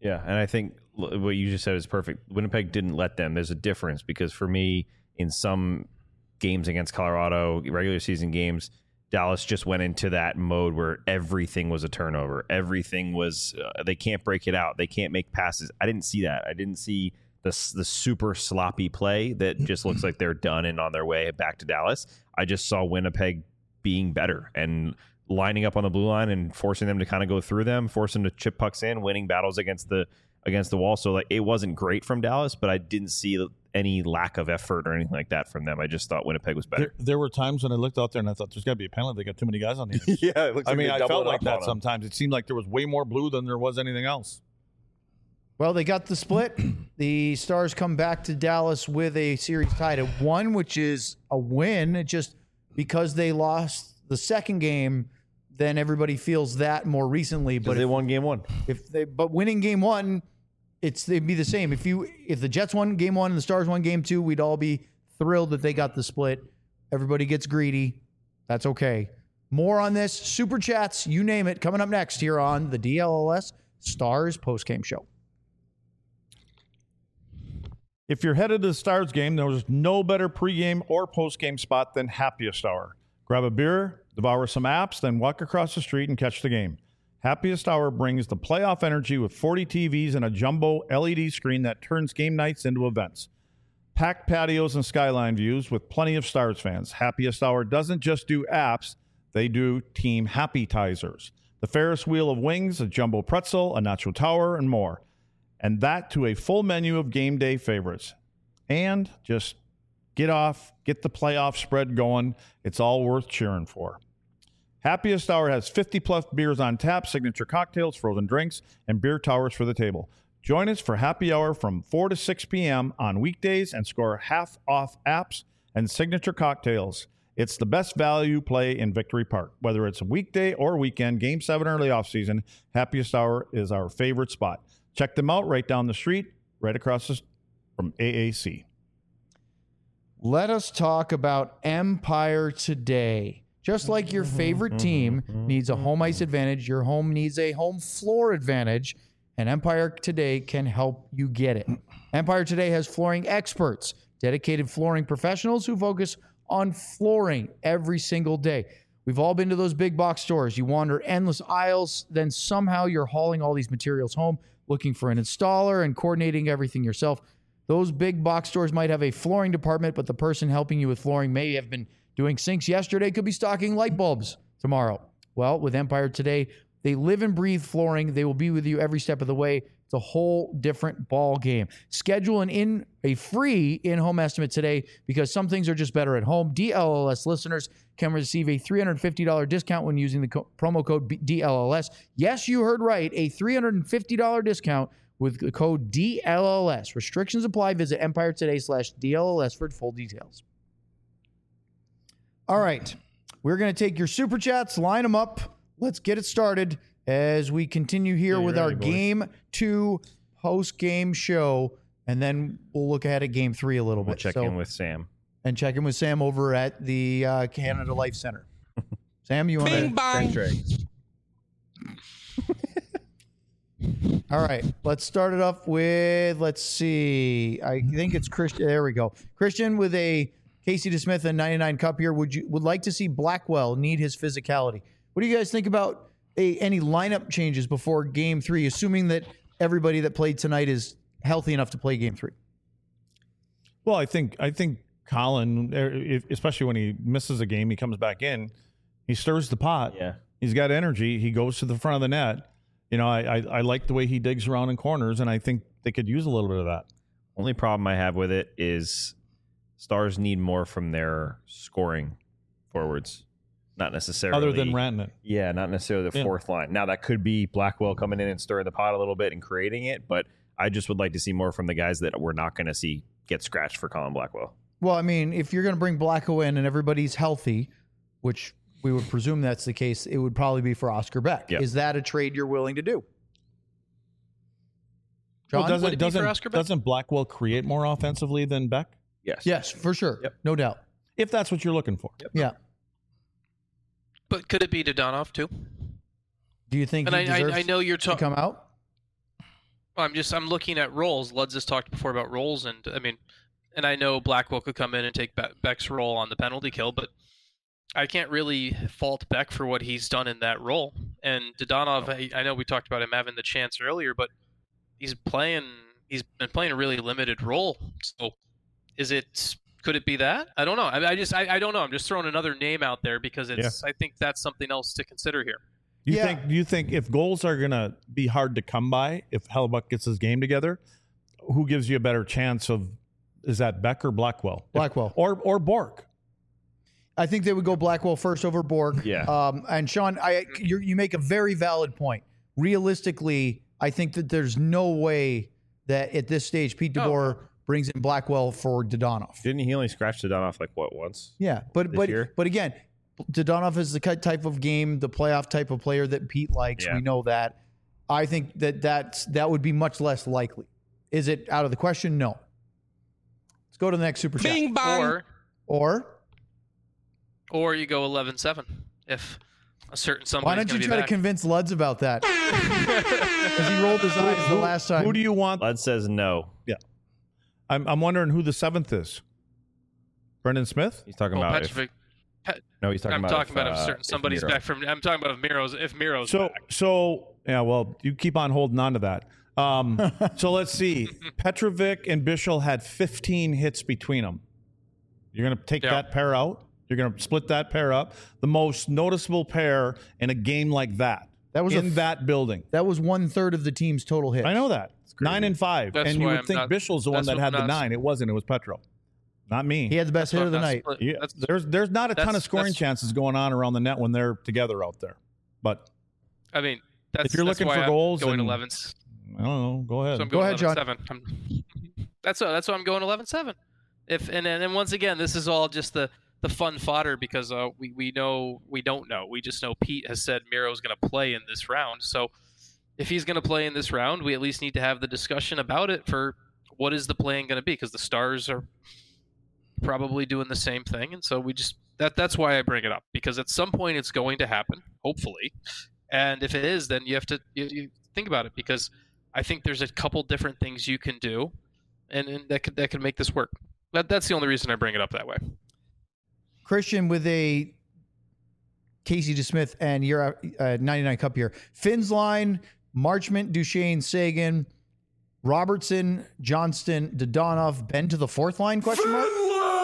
Yeah, and I think l- what you just said is perfect. Winnipeg didn't let them. There's a difference because for me, in some games against Colorado, regular season games, Dallas just went into that mode where everything was a turnover. Everything was, uh, they can't break it out. They can't make passes. I didn't see that. I didn't see the, the super sloppy play that just looks like they're done and on their way back to Dallas. I just saw Winnipeg being better and lining up on the blue line and forcing them to kind of go through them, forcing them to chip pucks in, winning battles against the against the wall. So like it wasn't great from Dallas, but I didn't see any lack of effort or anything like that from them. I just thought Winnipeg was better. There, there were times when I looked out there and I thought there's got to be a penalty. They got too many guys on the ice. Yeah, it looks I like mean, they I doubled felt like up that on 'em. sometimes. It seemed like there was way more blue than there was anything else. Well, they got the split. The Stars come back to Dallas with a series tied at one, which is a win. It just because they lost the second game, then everybody feels that more recently. But they if, won game one. if they but winning game one, it's they'd be the same. If you if the Jets won game one and the Stars won game two, we'd all be thrilled that they got the split. Everybody gets greedy. That's okay. More on this, super chats, you name it, coming up next here on the D L L S Stars postgame show. If you're headed to the Stars game, there's no better pregame or postgame spot than Happiest Hour. Grab a beer, devour some apps, then walk across the street and catch the game. Happiest Hour brings the playoff energy with forty T Vs and a jumbo L E D screen that turns game nights into events. Packed patios and skyline views with plenty of Stars fans. Happiest Hour doesn't just do apps, they do team happy-tizers. The Ferris wheel of wings, a jumbo pretzel, a nacho tower, and more. And that to a full menu of game day favorites. And just get off, get the playoff spread going. It's all worth cheering for. Happiest Hour has fifty plus beers on tap, signature cocktails, frozen drinks, and beer towers for the table. Join us for Happy Hour from four to six p.m. on weekdays and score half off apps and signature cocktails. It's the best value play in Victory Park. Whether it's a weekday or weekend, Game seven early off season, Happiest Hour is our favorite spot. Check them out right down the street, right across the, from A A C. Let us talk about Empire Today. Just like your favorite team needs a home ice advantage, your home needs a home floor advantage, and Empire Today can help you get it. Empire Today has flooring experts, dedicated flooring professionals who focus on flooring every single day. We've all been to those big box stores. You wander endless aisles, then somehow you're hauling all these materials home, looking for an installer and coordinating everything yourself. Those big box stores might have a flooring department, but the person helping you with flooring may have been doing sinks yesterday, could be stocking light bulbs tomorrow. Well, with Empire Today, they live and breathe flooring. They will be with you every step of the way. It's a whole different ball game. Schedule an in a free in-home estimate today because some things are just better at home. D L L S listeners can receive a three hundred fifty dollars discount when using the co- promo code D L L S. Yes, you heard right, a three hundred fifty dollars discount with the code D L L S. Restrictions apply. Visit Empire Today slash D L L S for full details. All right, we're going to take your super chats, line them up. Let's get it started as we continue here Yeah, with ready, our boys. game two post-game show, and then we'll look ahead at game three a little We'll bit. check So- in with Sam. and check in with Sam over at the uh, Canada Life Center. Sam, you want to? All right, let's start it off with, let's see. I think it's Christian. There we go. Christian with a Casey DeSmith and ninety-nine Cup here. Would you would like to see Blackwell need his physicality? What do you guys think about a, any lineup changes before game three, assuming that everybody that played tonight is healthy enough to play game three? Well, I think I think Colin, er, if- especially when he misses a game, he comes back in, he stirs the pot. Yeah. He's got energy. He goes to the front of the net. You know, I, I I like the way he digs around in corners, and I think they could use a little bit of that. Only problem I have with it is Stars need more from their scoring forwards, not necessarily Other than Rantanen. Yeah, not necessarily the Yeah. fourth line. Now that could be Blackwell coming in and stirring the pot a little bit and creating it, but I just would like to see more from the guys that we're not going to see get scratched for Colin Blackwell. Well, I mean, if you're going to bring Blacko in and everybody's healthy, which we would presume that's the case, it would probably be for Oscar Beck. Yep. Is that a trade you're willing to do? John? Well, doesn't Would it be for doesn't Oscar Beck? doesn't Blackwell create more offensively than Beck? Yes. Yes, for sure. Yep. No doubt. If that's what you're looking for. Yeah. But could it be Dodonov too? Do you think And he I, deserves I, I know you're to talking. come out? Well, I'm just I'm looking at roles. Luds has talked before about roles, and I mean, and I know Blackwell could come in and take Be- Beck's role on the penalty kill, but I can't really fault Beck for what he's done in that role. And Dodonov, I, I know we talked about him having the chance earlier, but he's playing. He's been playing a really limited role. So, is it? Could it be that? I don't know. I, I just I, I don't know. I'm just throwing another name out there because it's. Yeah. I think that's something else to consider here. Do you Yeah. think? Do you think if goals are gonna be hard to come by, if Hellebuck gets his game together, who gives you a better chance of? Is that Beck or Blackwell? Blackwell. If, or or Bork? I think they would go Blackwell first over Bork. Yeah. Um, and Sean, I you you make a very valid point. Realistically, I think that there's no way that at this stage Pete DeBoer oh. brings in Blackwell for Dodonov. Didn't he only scratch Dodonov like what once? Yeah, but but year? but again, Dodonov is the type of game, the playoff type of player that Pete likes. Yeah. We know that. I think that that's, that would be much less likely. Is it out of the question? No. Let's go to the next super chat. Bing bang. Or Or or you go eleven seven if a certain somebody. why don't you try back. to convince Luds about that? Because he rolled his eyes the last time. Who do you want? Lud says no. Yeah, I'm I'm wondering who the seventh is. Brendan Smith. He's talking Oh, about. If, Petrovic. Pe- no, he's talking I'm about. talking if, about if uh, certain if somebody's Miro. back from. I'm talking about if Miro's if Miro's So back. so yeah. Well, you keep on holding on to that. Um, so let's see. Petrovic and Bischel had fifteen hits between them. You're going to take Yeah. that pair out. You're going to split that pair up. The most noticeable pair in a game like that. That was a in f- that building. That was one third of the team's total hits. I know that. Nine and five. That's and you why would I'm think not- Bischel's the one that's that what had the I'm not- nine. It wasn't. It was Petro. Not me. He had the best That's hit of the what I'm night. not split- Yeah, that's- there's there's not a ton that's- of scoring that's- chances going on around the net when they're together out there. But I mean, that's, if you're that's looking why for I'm goals going and- eleven. I don't know. Go ahead. So I'm Go going ahead, John. eleven seven. I'm, that's what, that's why I'm going eleven seven. If and and and once again, this is all just the, the fun fodder because uh, we we know we don't know. We just know Pete has said Miro's going to play in this round. So if he's going to play in this round, we at least need to have the discussion about it for what is the playing going to be because the Stars are probably doing the same thing, and so we just that that's why I bring it up because at some point it's going to happen, hopefully, and if it is, then you have to you, you think about it because. I think there's a couple different things you can do, and, and that could that could make this work. That that's the only reason I bring it up that way. Christian with a Casey DeSmith and your uh, ninety-nine Cup here. Finn's line, Marchment, Duchesne, Sagan, Robertson, Johnston, Dodonov, Ben to the fourth line, question mark?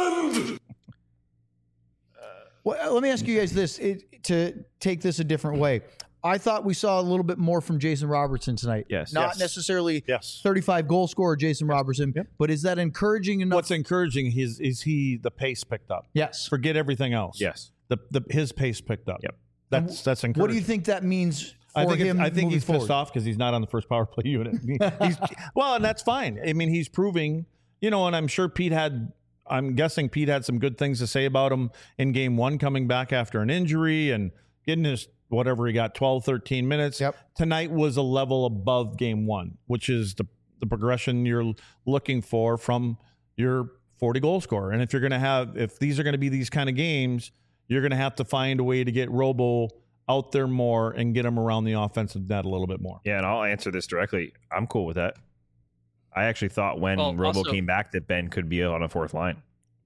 Well, let me ask you guys this, it, to take this a different way. I thought we saw a little bit more from Jason Robertson tonight. Yes. Not Yes. necessarily Yes. thirty-five goal scorer Jason Robertson, Yep. but is that encouraging enough? What's encouraging is is he the pace picked up. yes. Forget everything else. Yes. The the his pace picked up. Yep. That's that's encouraging. What do you think that means for I think it's- him I think moving he's forward? pissed off because he's not on the first power play unit. He's, well, and that's fine. I mean, he's proving, you know, and I'm sure Pete had. I'm guessing Pete had some good things to say about him in game one, coming back after an injury and getting his whatever he got, twelve, thirteen minutes. Yep. Tonight was a level above game one, which is the the progression you're looking for from your forty goal scorer. And if you're going to have, if these are going to be these kind of games, you're going to have to find a way to get Robo out there more and get him around the offensive net a little bit more. Yeah, and I'll answer this directly. I'm cool with that. I actually thought when Well, Robo also- came back that Ben could be on a fourth line.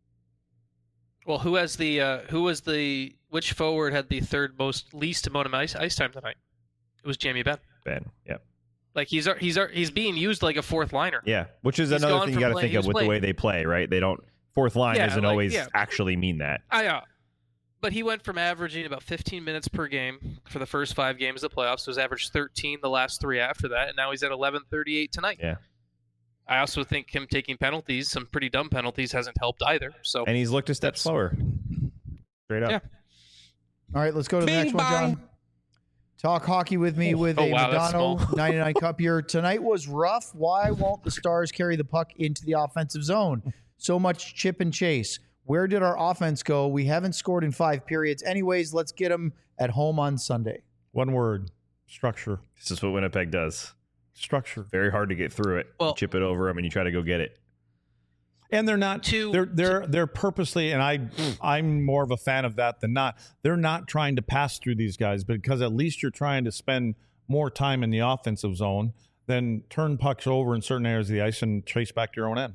Well, who has the uh, who was the which forward had the third most least amount of ice, ice time tonight? It was Jamie Benn. Ben, yeah, Like he's he's he's being used like a fourth liner. yeah. Which is He's another gone thing you from got to playing- think he of was with the playing- way they play, right? They don't fourth line Yeah, doesn't like, always yeah. actually mean that. I uh, but he went from averaging about fifteen minutes per game for the first five games of the playoffs. So he's averaged thirteen the last three after that, and now he's at eleven thirty-eight tonight. Yeah. I also think him taking penalties, some pretty dumb penalties, hasn't helped either. So And he's looked a step That's- slower. Straight up. Yeah. All right, let's go to the Bing next one, bong. John. Talk hockey with me with Oh, a wow, that's Madonna small. ninety-nine Cup here. Tonight was rough. Why won't the Stars carry the puck into the offensive zone? So much chip and chase. Where did our offense go? We haven't scored in five periods. Anyways, let's get them at home on Sunday. One word, structure. This is what Winnipeg does. Structure. Very hard to get through it. Well- you chip it over them and you try to go get it. And they're not To- they're they're they're purposely, and I I'm more of a fan of that than not. They're not trying to pass through these guys because at least you're trying to spend more time in the offensive zone. then turn pucks over in certain areas of the ice and chase back to your own end.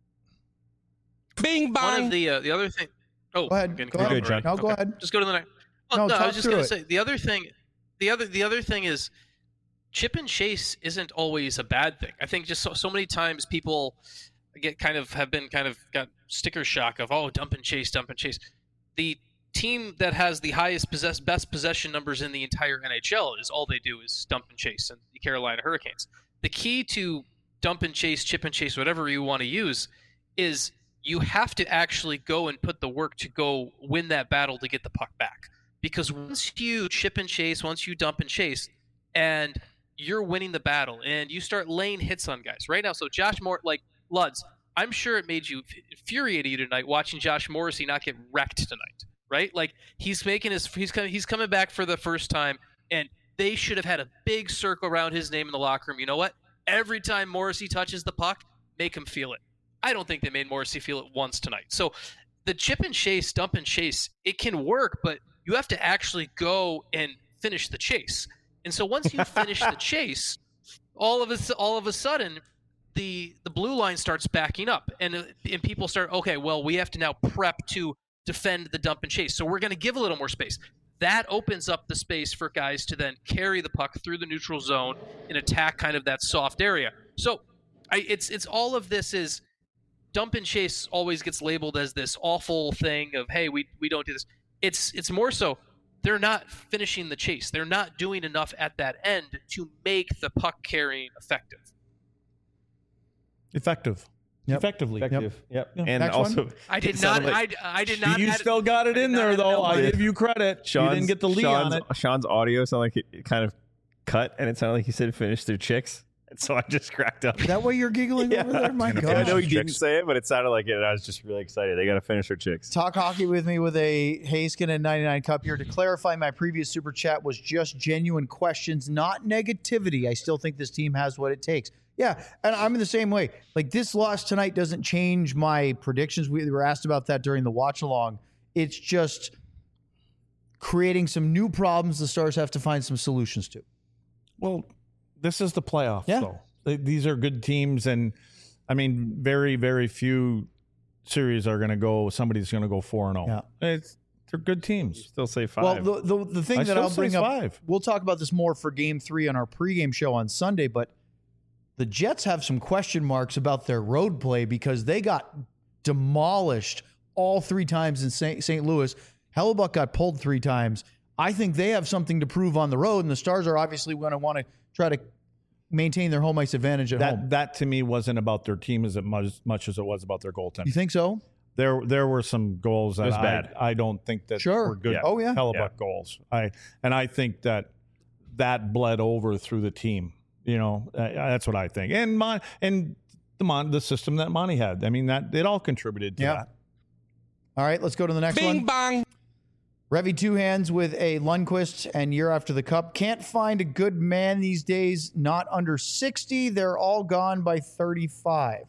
Bing bong. One of the uh, the other thing. Oh, Go ahead. again, Go go ahead. Good, John. No, go Okay. ahead. Just go to the next. Oh, No, no, I talk was just through gonna it. say the other thing. The other the other thing is, chip and chase isn't always a bad thing. I think just so, so many times people get kind of have been kind of got sticker shock of oh dump and chase, dump and chase. The team that has the highest possess best possession numbers in the entire N H L is all they do is dump and chase, and the Carolina Hurricanes. The key to dump and chase, chip and chase, whatever you want to use, is you have to actually go and put the work to go win that battle to get the puck back. Because once you chip and chase, once you dump and chase, and you're winning the battle, and you start laying hits on guys right now. So Josh Moore, like Luds, I'm sure it made you infuriated you tonight watching Josh Morrissey not get wrecked tonight, right? Like he's making his he's coming he's coming back for the first time, and they should have had a big circle around his name in the locker room. You know what? Every time Morrissey touches the puck, make him feel it. I don't think they made Morrissey feel it once tonight. So the chip and chase, dump and chase, it can work, but you have to actually go and finish the chase. And so once you finish the chase, all of a, all of a sudden, the the blue line starts backing up, and and people start, okay, well, we have to now prep to defend the dump and chase. So we're going to give a little more space. That opens up the space for guys to then carry the puck through the neutral zone and attack kind of that soft area. So I, it's it's all of this is dump and chase always gets labeled as this awful thing of, hey, we we don't do this. It's it's more so they're not finishing the chase. They're not doing enough at that end to make the puck carrying effective. Effective. Yep. Effectively. Effective. Yep. Yep. And Next also, one. I it did not. sounded like I, I did not. You add- still got it I in did not there, add though. an I L. give you credit. Sean's, you didn't get the lead Sean's, on it. Sean's audio sounded like it, it kind of cut, and it sounded like he said finish their chicks. And so I just cracked up. Is that why you're giggling over there? My And God. I know he Chicks. didn't say it, but it sounded like it. And I was just really excited. They got to finish their chicks. Talk hockey with me with a Hayskin and ninety-nine Cup here. To clarify, my previous super chat was just genuine questions, not negativity. I still think this team has what it takes. Yeah, and I'm in the same way. Like, this loss tonight doesn't change my predictions. We were asked about that during the watch along. It's just creating some new problems the Stars have to find some solutions to. Well, this is the playoffs, Yeah. though. They- These are good teams, and I mean, very, very few series are going to go. Somebody's going to go four and zero. It's they're good teams. Still say five. Well, the, the, the thing I that still I'll say bring up, five. we'll talk about this more for game three on our pregame show on Sunday, but the Jets have some question marks about their road play because they got demolished all three times in Saint Louis. Hellebuck got pulled three times. I think they have something to prove on the road, and the Stars are obviously going to want to try to maintain their home ice advantage at That home. that to me wasn't about their team as much, much as it was about their goaltending. You think so? There there were some goals that was I, bad. I don't think that Sure. were good. Yeah. Oh, yeah. Hellebuck Yeah. goals. I and I think that that bled over through the team. You know, uh, that's what I think. And Mon and the Mon the system that Monty had. I mean, that it all contributed to Yeah. that. All right, let's go to the next Bing one. bong. Revy Two Hands with a Lundqvist and year after the cup. Can't find a good man these days, not under sixty. They're all gone by thirty-five.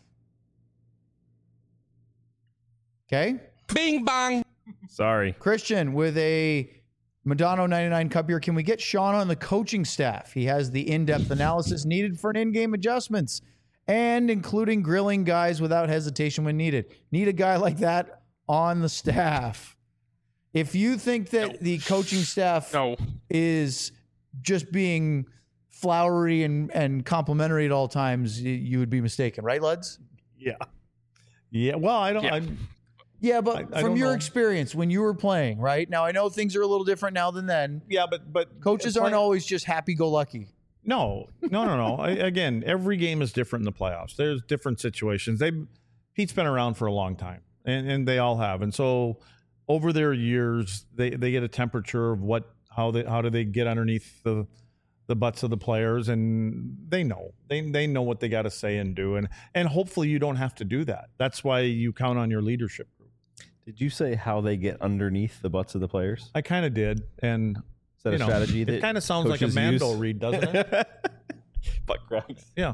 Okay. Bing bong. Sorry. Christian with a Madonna ninety-nine Cup here. Can we get Sean on the coaching staff? He has the in-depth analysis needed for an in-game adjustments and including grilling guys without hesitation when needed. Need a guy like that on the staff. If you think that No. the coaching staff No. is just being flowery and, and complimentary at all times, you, you would be mistaken, right, Luds? Yeah. Yeah. Well, I don't. Yeah. I, Yeah, but I- I from don't your know. experience when you were playing, right? Now, I know things are a little different now than then. yeah, but but Coaches aren't always just happy-go-lucky. No, no, no, no. I, again, every game is different in the playoffs. There's different situations. They Pete's been around for a long time, and, and they all have. And so over their years, they, they get a temperature of what how they how do they get underneath the the butts of the players, and they know they they know what they got to say and do, and and hopefully you don't have to do that. That's why you count on your leadership group. Did you say how they get underneath the butts of the players? I kind of did, and Is that you a know, strategy? it that kind of sounds like a coaches Mando use? read, doesn't it? Butt cracks. Yeah.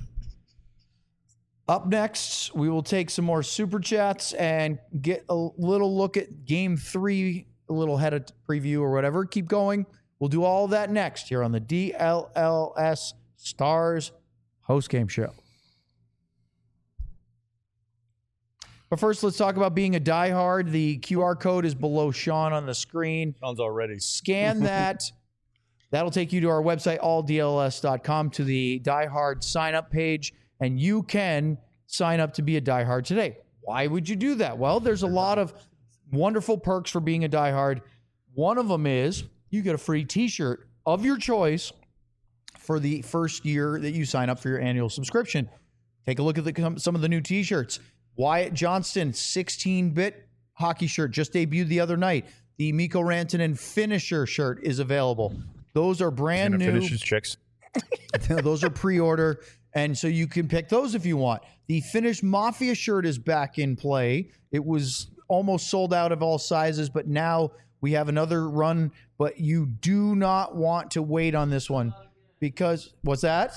Up next, we will take some more super chats and get a little look at game three, a little head of preview or whatever. Keep going. We'll do all that next here on the D L L S Stars Host game show. But first, let's talk about being a diehard. The Q R code is below Sean on the screen. Sean's already. Scan that. That'll take you to our website, all D L S dot com, to the diehard sign-up page, and you can sign up to be a diehard today. Why would you do that? Well, there's a lot of wonderful perks for being a diehard. One of them is you get a free T-shirt of your choice for the first year that you sign up for your annual subscription. Take a look at the, some of the new T-shirts. Wyatt Johnston sixteen-bit hockey shirt just debuted the other night. The Mikko Rantanen finisher shirt is available. Those are brand new. Finishes chicks. Those are pre-order, and so you can pick those if you want. The Finnish Mafia shirt is back in play. It was almost sold out of all sizes, but now we have another run. But you do not want to wait on this one because what's that?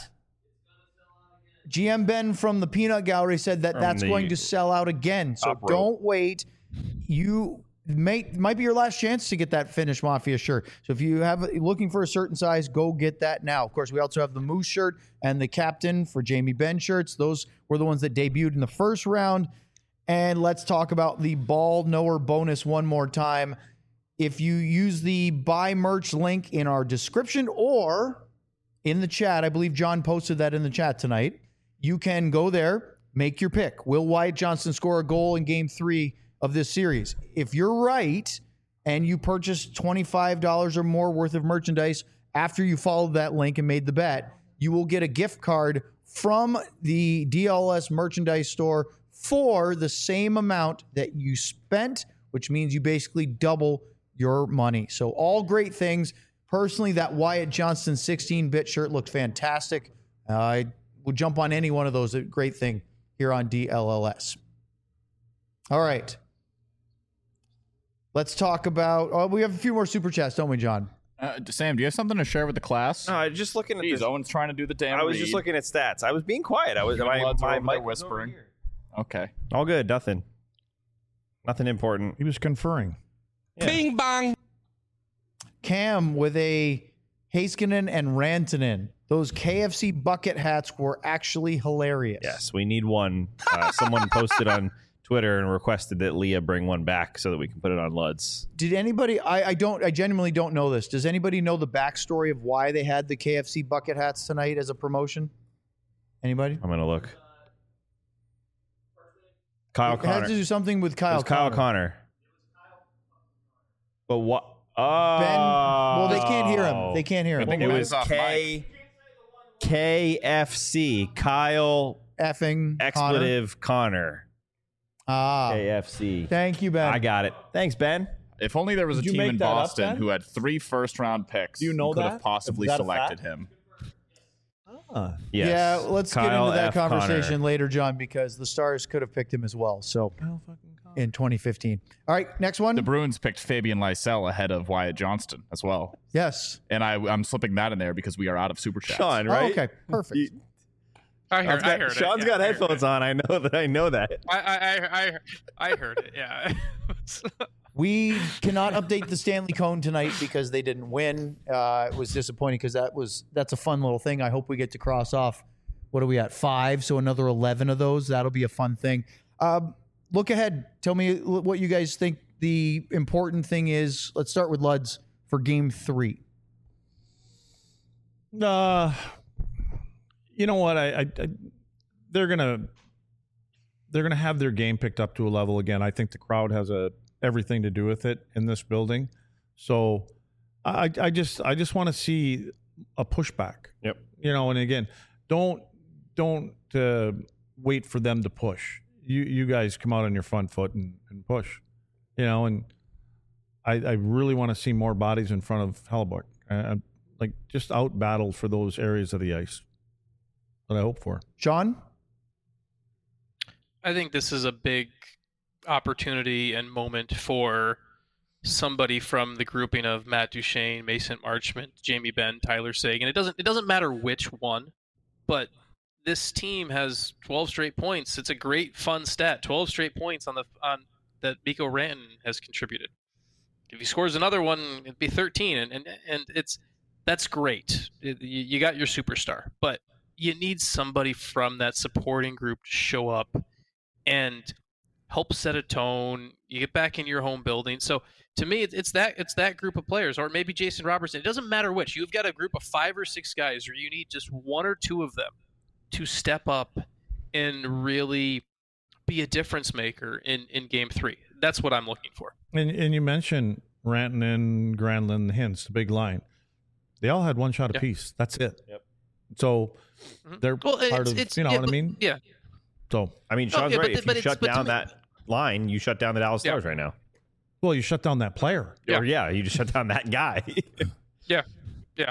G M Ben from the Peanut Gallery said that From that's the going to sell out again. So top rope. don't wait. You may might be your last chance to get that Finnish Mafia shirt. So if you have looking for a certain size, go get that now. Of course, we also have the Moose shirt and the Captain for Jamie Benn shirts. Those were the ones that debuted in the first round. And let's talk about the Ball Knower bonus one more time. If you use the buy merch link in our description or in the chat, I believe John posted that in the chat tonight, you can go there, make your pick. Will Wyatt Johnston score a goal in game three of this series? If you're right and you purchase twenty-five dollars or more worth of merchandise after you followed that link and made the bet, you will get a gift card from the D L S merchandise store for the same amount that you spent, which means you basically double your money. So all great things. Personally, that Wyatt Johnston sixteen-bit shirt looked fantastic. Uh, I would jump on any one of those. A great thing here on D L L S. All right. Let's talk about... Oh, we have a few more super chats, don't we, John? Uh, Sam, do you have something to share with the class? No, I was just looking at Jeez, this. Owen's trying to do the damn I was read. just looking at stats. I was being quiet. I was. My, Lads are my over there mic was over whispering. here. Okay. All good. Nothing. Nothing important. He was conferring. Yeah. Bing bong. Cam with a Heiskanen and Rantanen. Those K F C bucket hats were actually hilarious. Yes, we need one. Uh, someone posted on Twitter and requested that Leah bring one back so that we can put it on Luds. Did anybody, I, I don't, I genuinely don't know this. Does anybody know the backstory of why they had the K F C bucket hats tonight as a promotion? Anybody? I'm gonna look. Kyle It Connor. had to do something with It Kyle was Kyle Connor. Connor. But what? Oh, Ben, well, they can't hear him. They can't hear I him. think It Ben's was off K K F C. Kyle Effing expletive Connor. Connor. Ah, K F C. thank you, Ben. I got it. Thanks, Ben. If only there was a Did you team make in that up, Boston Ben? who had three first-round picks Do you know who could that? have possibly Is that a selected fact? him. Yes. Yeah, let's get Kyle into that F. conversation Connor. later, John, because the Stars could have picked him as well. So in twenty fifteen. All right, next one. The Bruins picked Fabian Lysell ahead of Wyatt Johnston as well. Yes. And I, I'm slipping that in there because we are out of super chats. Sean, Oh, right? okay, perfect. You- I heard, Sean's I got, heard Sean's it. Yeah, got I heard headphones it. on. I know that. I know that. I, I, I, I, I heard it. Yeah. We cannot update the Stanley Cone tonight because they didn't win. Uh, it was disappointing because that was that's a fun little thing. I hope we get to cross off. What are we at? Five. So another eleven of those. That'll be a fun thing. Um, look ahead. Tell me what you guys think the important thing is. Let's start with Luds for Game Three. Uh, you know what? I, I, I they're gonna they're gonna have their game picked up to a level again. I think the crowd has a everything to do with it in this building. So I, I just I just want to see a pushback. Yep. You know, and again, don't don't uh, wait for them to push. You you guys come out on your front foot and, and push. You know, and I I really want to see more bodies in front of Hellebuyck. Uh, like just out battle for those areas of the ice that I hope for. Sean? I think this is a big opportunity and moment for somebody from the grouping of Matt Duchene, Mason Marchment, Jamie Benn, Tyler Seguin. It doesn't it doesn't matter which one, but this team has twelve straight points. It's a great fun stat. twelve straight points on the on that Mikko Rantanen has contributed. If he scores another one, it'd be thirteen, and and, and it's that's great. It, you, you got your superstar, but you need somebody from that supporting group to show up and help set a tone. You get back in your home building. So to me, it's that it's that group of players, or maybe Jason Robertson. It doesn't matter which. You've got a group of five or six guys, or you need just one or two of them to step up and really be a difference maker in, in game three. That's what I'm looking for. And and you mentioned Rantanen, Granlund, Hintz, the big line. They all had one shot Yep. apiece. That's it. Yep. So Mhm. they're Well, part it's, of, it's, you know yeah, what I but- mean? Yeah. So, I mean, Oh, Sean's yeah, right. but- If but you it's- shut but to down me- that line, you shut down the Dallas Yeah. Stars right now. well, you shut down that player. Yeah. Or yeah, you just shut down that guy. Yeah. Yeah.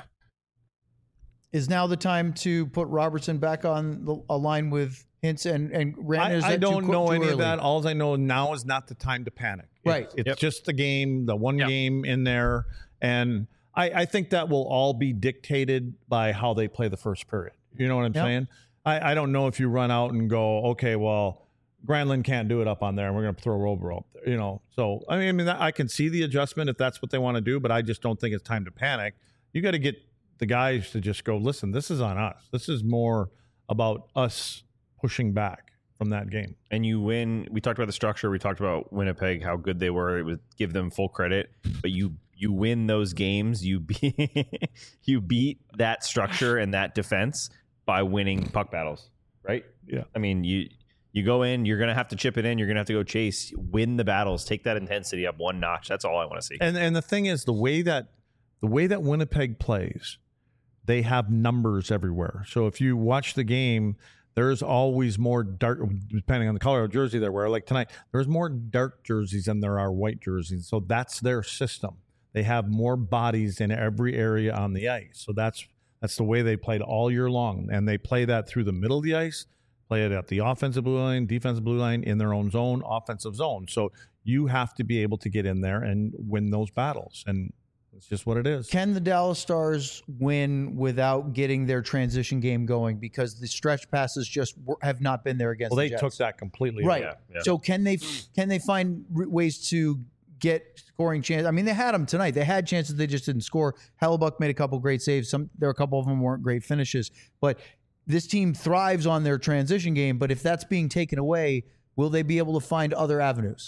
Is now the time to put Robertson back on the, a line with Hintz and and Rantanen? Is I, I that too don't qu- know too any of early? that. All I know now is not the time to panic. It- Right. It's Yep. just the game, the one Yeah. game in there. And I, I think that will all be dictated by how they play the first period. You know what I'm Yep. saying? I, I don't know if you run out and go, okay, well, Granlund can't do it up on there, and we're going to throw Robo up there. You know, so I mean, I mean, I can see the adjustment if that's what they want to do, but I just don't think it's time to panic. You got to get the guys to just go, listen, this is on us. This is more about us pushing back from that game. and you win. We talked about the structure. We talked about Winnipeg, how good they were. It would give them full credit, but you you win those games. You beat you beat that structure and that defense by winning puck battles, right? Yeah. I mean, you you go in. You're going to have to chip it in. You're going to have to go chase, win the battles, take that intensity up one notch. That's all I want to see. And and the thing is, the way that the way that Winnipeg plays, they have numbers everywhere. So if you watch the game, there's always more dark, depending on the color of jersey they wear. Like tonight, there's more dark jerseys than there are white jerseys. So that's their system. They have more bodies in every area on the ice. So that's that's the way they played all year long, and they play that through the middle of the ice. Play it at the offensive blue line, defensive blue line, in their own zone, offensive zone. So you have to be able to get in there and win those battles. And it's just what it is. Can the Dallas Stars win without getting their transition game going because the stretch passes just w- have not been there against Well, they the Jets? took that completely. Right. away. Yeah, yeah. So can they can they find r- ways to get scoring chance? I mean, they had them tonight. They had chances. They just didn't score. Hellebuck made a couple great saves. Some there were a couple of them weren't great finishes. But this team thrives on their transition game. But if that's being taken away, will they be able to find other avenues?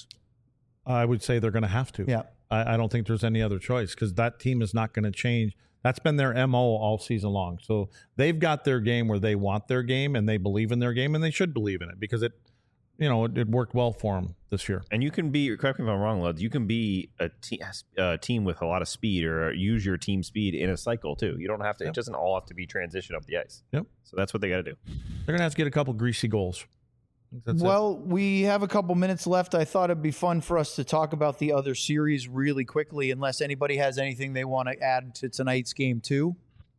I would say they're going to have to. Yeah. I, I don't think there's any other choice because that team is not going to change. That's been their M O all season long. So they've got their game where they want their game and they believe in their game, and they should believe in it because it, you know, it, it worked well for them this year. And you can be, correct me if I'm wrong, Luds, you can be a, te- a team with a lot of speed or use your team speed in a cycle too. You don't have to, Yep. it doesn't all have to be transition up the ice. Yep. So that's what they got to do. They're going to have to get a couple greasy goals. That's it. Well, we have a couple minutes left. I thought it'd be fun for us to talk about the other series really quickly, unless anybody has anything they want to add to tonight's game too.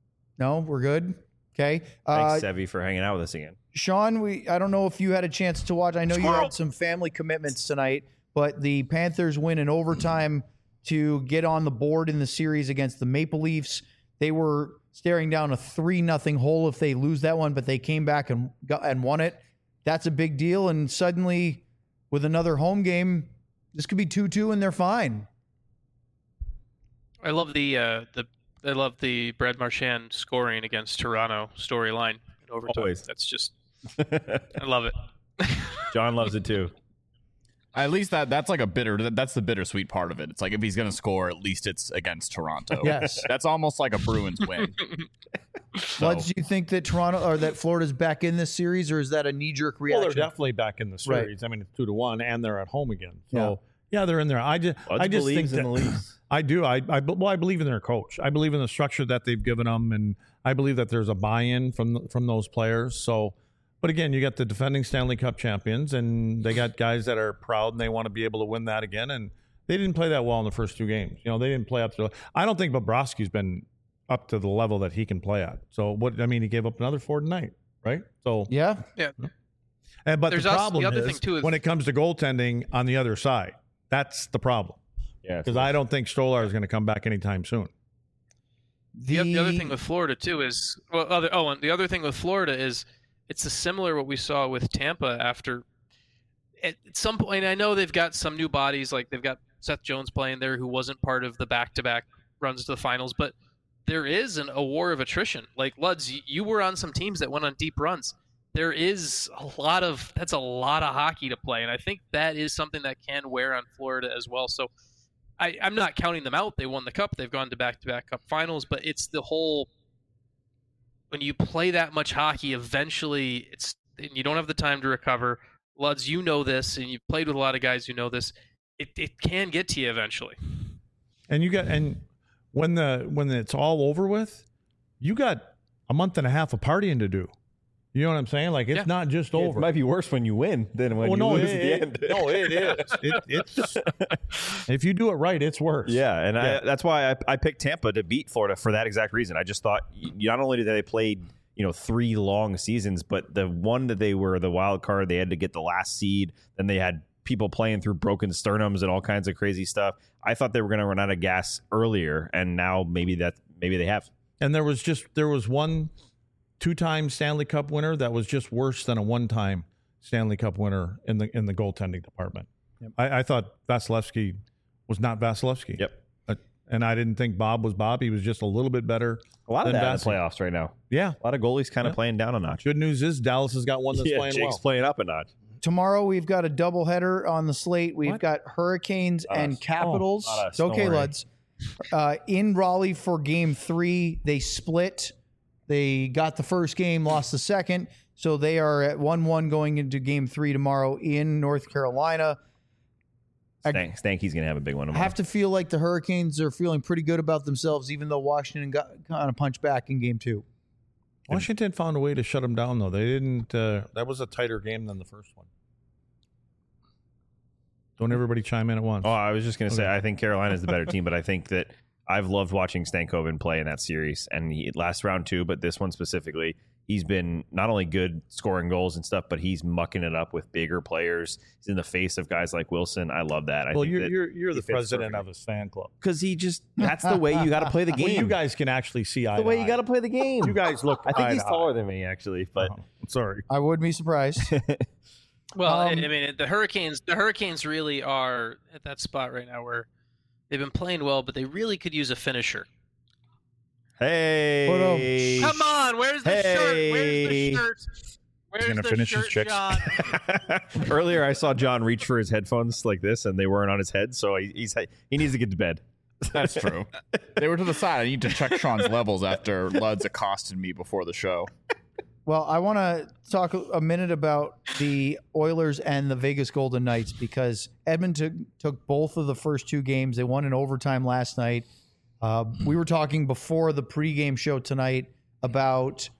No, we're good. Okay. Uh, Thanks, Sevy, for hanging out with us again. Sean, we I don't know if you had a chance to watch. I know you had some family commitments tonight, but the Panthers win in overtime to get on the board in the series against the Maple Leafs. They were staring down a three nothing hole if they lose that one, but they came back and got and won it. That's a big deal. And suddenly, with another home game, this could be two two, and they're fine. I love the uh, the I love the Brad Marchand scoring against Toronto storyline in overtime. Always. That's just I love it. John loves it too. At least that that's like a bitter. that- That's the bittersweet part of it. It's like if he's going to score, at least it's against Toronto. Yes. That's almost like a Bruins win. So, But do you think that Toronto or that Florida's back in this series, or is that a knee jerk well, reaction? they're definitely back in the Right. series. I mean, it's two to one, and they're at home again. So yeah, they're in there. I just, Luds I just think believes in that, the Leafs. I do. I, I, well, I believe in their coach. I believe in the structure that they've given them, and I believe that there's a buy-in from from those players. So, but again, you got the defending Stanley Cup champions, and they got guys that are proud and they want to be able to win that again. And they didn't play that well in the first two games. You know, they didn't play up to. I don't think Bobrovsky's been up to the level that he can play at. So, what I mean, he gave up another four tonight, right? So, Yeah. Yeah. and, but There's the also- problem the other is thing, too, is- when it comes to goaltending on the other side, that's the problem. Yeah. Because I don't think Stolar is going to come back anytime soon. The, the other thing with Florida too is well, other oh, and the other thing with Florida is it's a similar what we saw with Tampa after. At some point, I know they've got some new bodies, like they've got Seth Jones playing there, who wasn't part of the back-to-back runs to the finals, but there is an, a war of attrition. Like, Luds, you, you were on some teams that went on deep runs. There is a lot of that's a lot of hockey to play, and I think that is something that can wear on Florida as well. So I, I'm not counting them out. They won the cup. They've gone to back-to-back cup finals, but it's the whole when you play that much hockey, eventually it's you don't have the time to recover. Luds, you know this, and you've played with a lot of guys who know this. It it can get to you eventually. And you got and when the when it's all over with, you got a month and a half of partying to do. You know what I'm saying? Like, it's Yeah. not just Yeah, over. it might be worse when you win than when well, you no, lose it, at the it- end. no, it is. It, it's if you do it right, it's worse. Yeah, and Yeah. I, that's why I, I picked Tampa to beat Florida for that exact reason. I just thought y- not only did they played you know three long seasons, but the one that they were the wild card, they had to get the last seed. Then they had people playing through broken sternums and all kinds of crazy stuff. I thought they were going to run out of gas earlier, and now maybe that maybe they have. And there was just there was one two-time Stanley Cup winner that was just worse than a one-time Stanley Cup winner in the in the goaltending department. I, I thought Vasilevsky was not Vasilevsky. Yep. Uh, and I didn't think Bob was Bob. He was just a little bit better. A lot of than that in the Vasi. playoffs right now. Yeah. A lot of goalies kind of Yeah. playing down a notch. Good news is Dallas has got one that's yeah, playing Jake's well. playing up a notch. Tomorrow we've got a doubleheader on the slate. We've What? got Hurricanes Lot and of- Capitals. oh, lot of it's okay, snoring. Luds. Uh, in Raleigh for game three, they split. They got the first game, lost the second. So they are at one one going into game three tomorrow in North Carolina. I- Stank, Stanky's going to have a big one I tomorrow. have to feel like the Hurricanes are feeling pretty good about themselves, even though Washington got kind of punched back in game two. Washington found a way to shut them down, though. They didn't. Uh, that was a tighter game than the first one. Don't everybody chime in at once. Oh, I was just going to say, Okay. I think Carolina is the better team, but I think that I've loved watching Stankoven play in that series. And he, last round two, but this one specifically, he's been not only good scoring goals and stuff, but he's mucking it up with bigger players. He's in the face of guys like Wilson. I love that. I well, think you're that you're, you're he the fits president perfectly. of his fan club. Because he just, that's the way you got to play the game. Well, you guys can actually see eye the way to you eye. got to play the game. You guys look. I think eye he's to taller eye. than me, actually, but Oh, sorry. I would be surprised. Well, I- Um, I mean, the Hurricanes. The Hurricanes really are at that spot right now where they've been playing well, but they really could use a finisher. hey. Come on, where's the shirt? Where's the Hey. shirt? Where's gonna the finish his shirt, chicks. John? Earlier, I saw John reach for his headphones like this, and they weren't on his head, so he, he's he needs to get to bed. That's true. They were to the side. I need to check Sean's levels after Luds accosted me before the show. Well, I want to talk a minute about the Oilers and the Vegas Golden Knights because Edmonton took both of the first two games. They won in overtime last night. Uh, we were talking before the pregame show tonight about,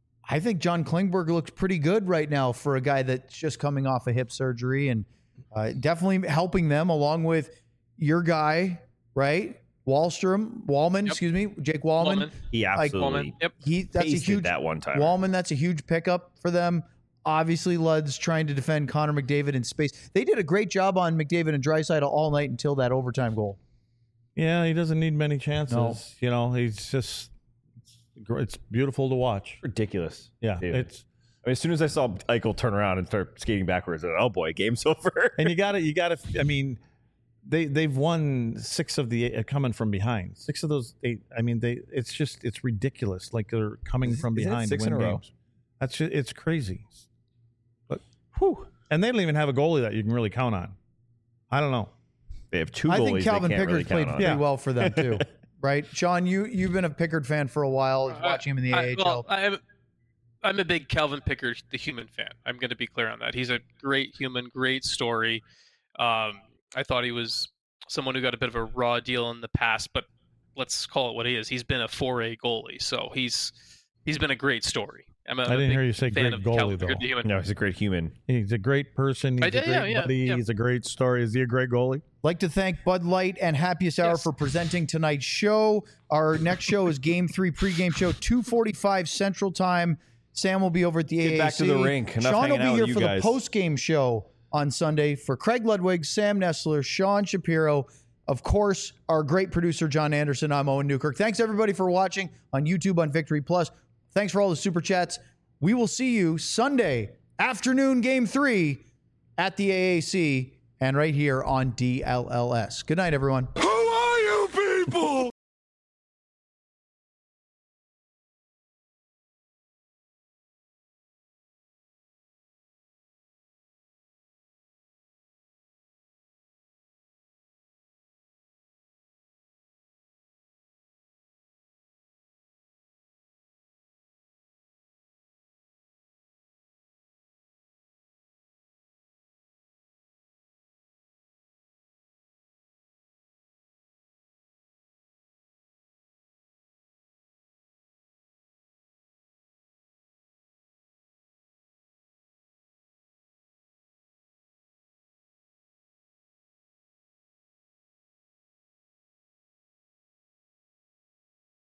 I think John Klingberg looks pretty good right now for a guy that's just coming off a hip surgery and uh, definitely helping them along with your guy, right? Wallstrom, Wallman, Yep. excuse me, Jake Wallman. Wallman. He Like, absolutely Wallman. Yep. He that's a pasted huge that one time. Wallman, that's a huge pickup for them. Obviously, Lud's trying to defend Connor McDavid in space. They did a great job on McDavid and Draisaitl all night until that overtime goal. Yeah, he doesn't need many chances. No. You know, he's just. It's beautiful to watch. ridiculous. Yeah, Dude. it's I mean, as soon as I saw Eichel turn around and start skating backwards, I thought, oh boy, game's over. and you got to you got to. I mean, they they've won six of the eight, uh, coming from behind. Six of those eight. I mean, they. It's just it's ridiculous. Like they're coming Is- from is that behind. six to in win a row? games. That's just, it's crazy. But whew, and they don't even have a goalie that you can really count on. I don't know. They have two I goalies think Calvin they can't Pickard really played count on. pretty Yeah. well for them too, right? Sean, you you've been a Pickard fan for a while, watching him in the I, A H L. well, I'm, I'm a big Calvin Pickard, the human fan. I'm going to be clear on that. He's a great human, great story. Um, I thought he was someone who got a bit of a raw deal in the past, but let's call it what he is. He's been a four A goalie, so he's he's been a great story. I'm a, I I'm a didn't big hear you say fan great of goalie, Calvin Pickard, though. the human. No, he's a great human. He's a great person. He's I a did- great yeah, yeah, buddy. yeah. He's a great story. Is he a great goalie? Like to thank Bud Light and Happiest Hour Yes. for presenting tonight's show. Our next show is Game Three pregame show, two forty-five Central Time. Sam will be over at the Get A A C. back to the rink. Enough Sean will hanging be out here with for you the guys. post-game show on Sunday. For Craig Ludwig, Sam Nestler, Sean Shapiro, of course, our great producer John Anderson. I'm Owen Newkirk. Thanks everybody for watching on YouTube on Victory Plus. Thanks for all the super chats. We will see you Sunday afternoon, Game Three, at the A A C and right here on D L L S. Good night, everyone. Who are you people?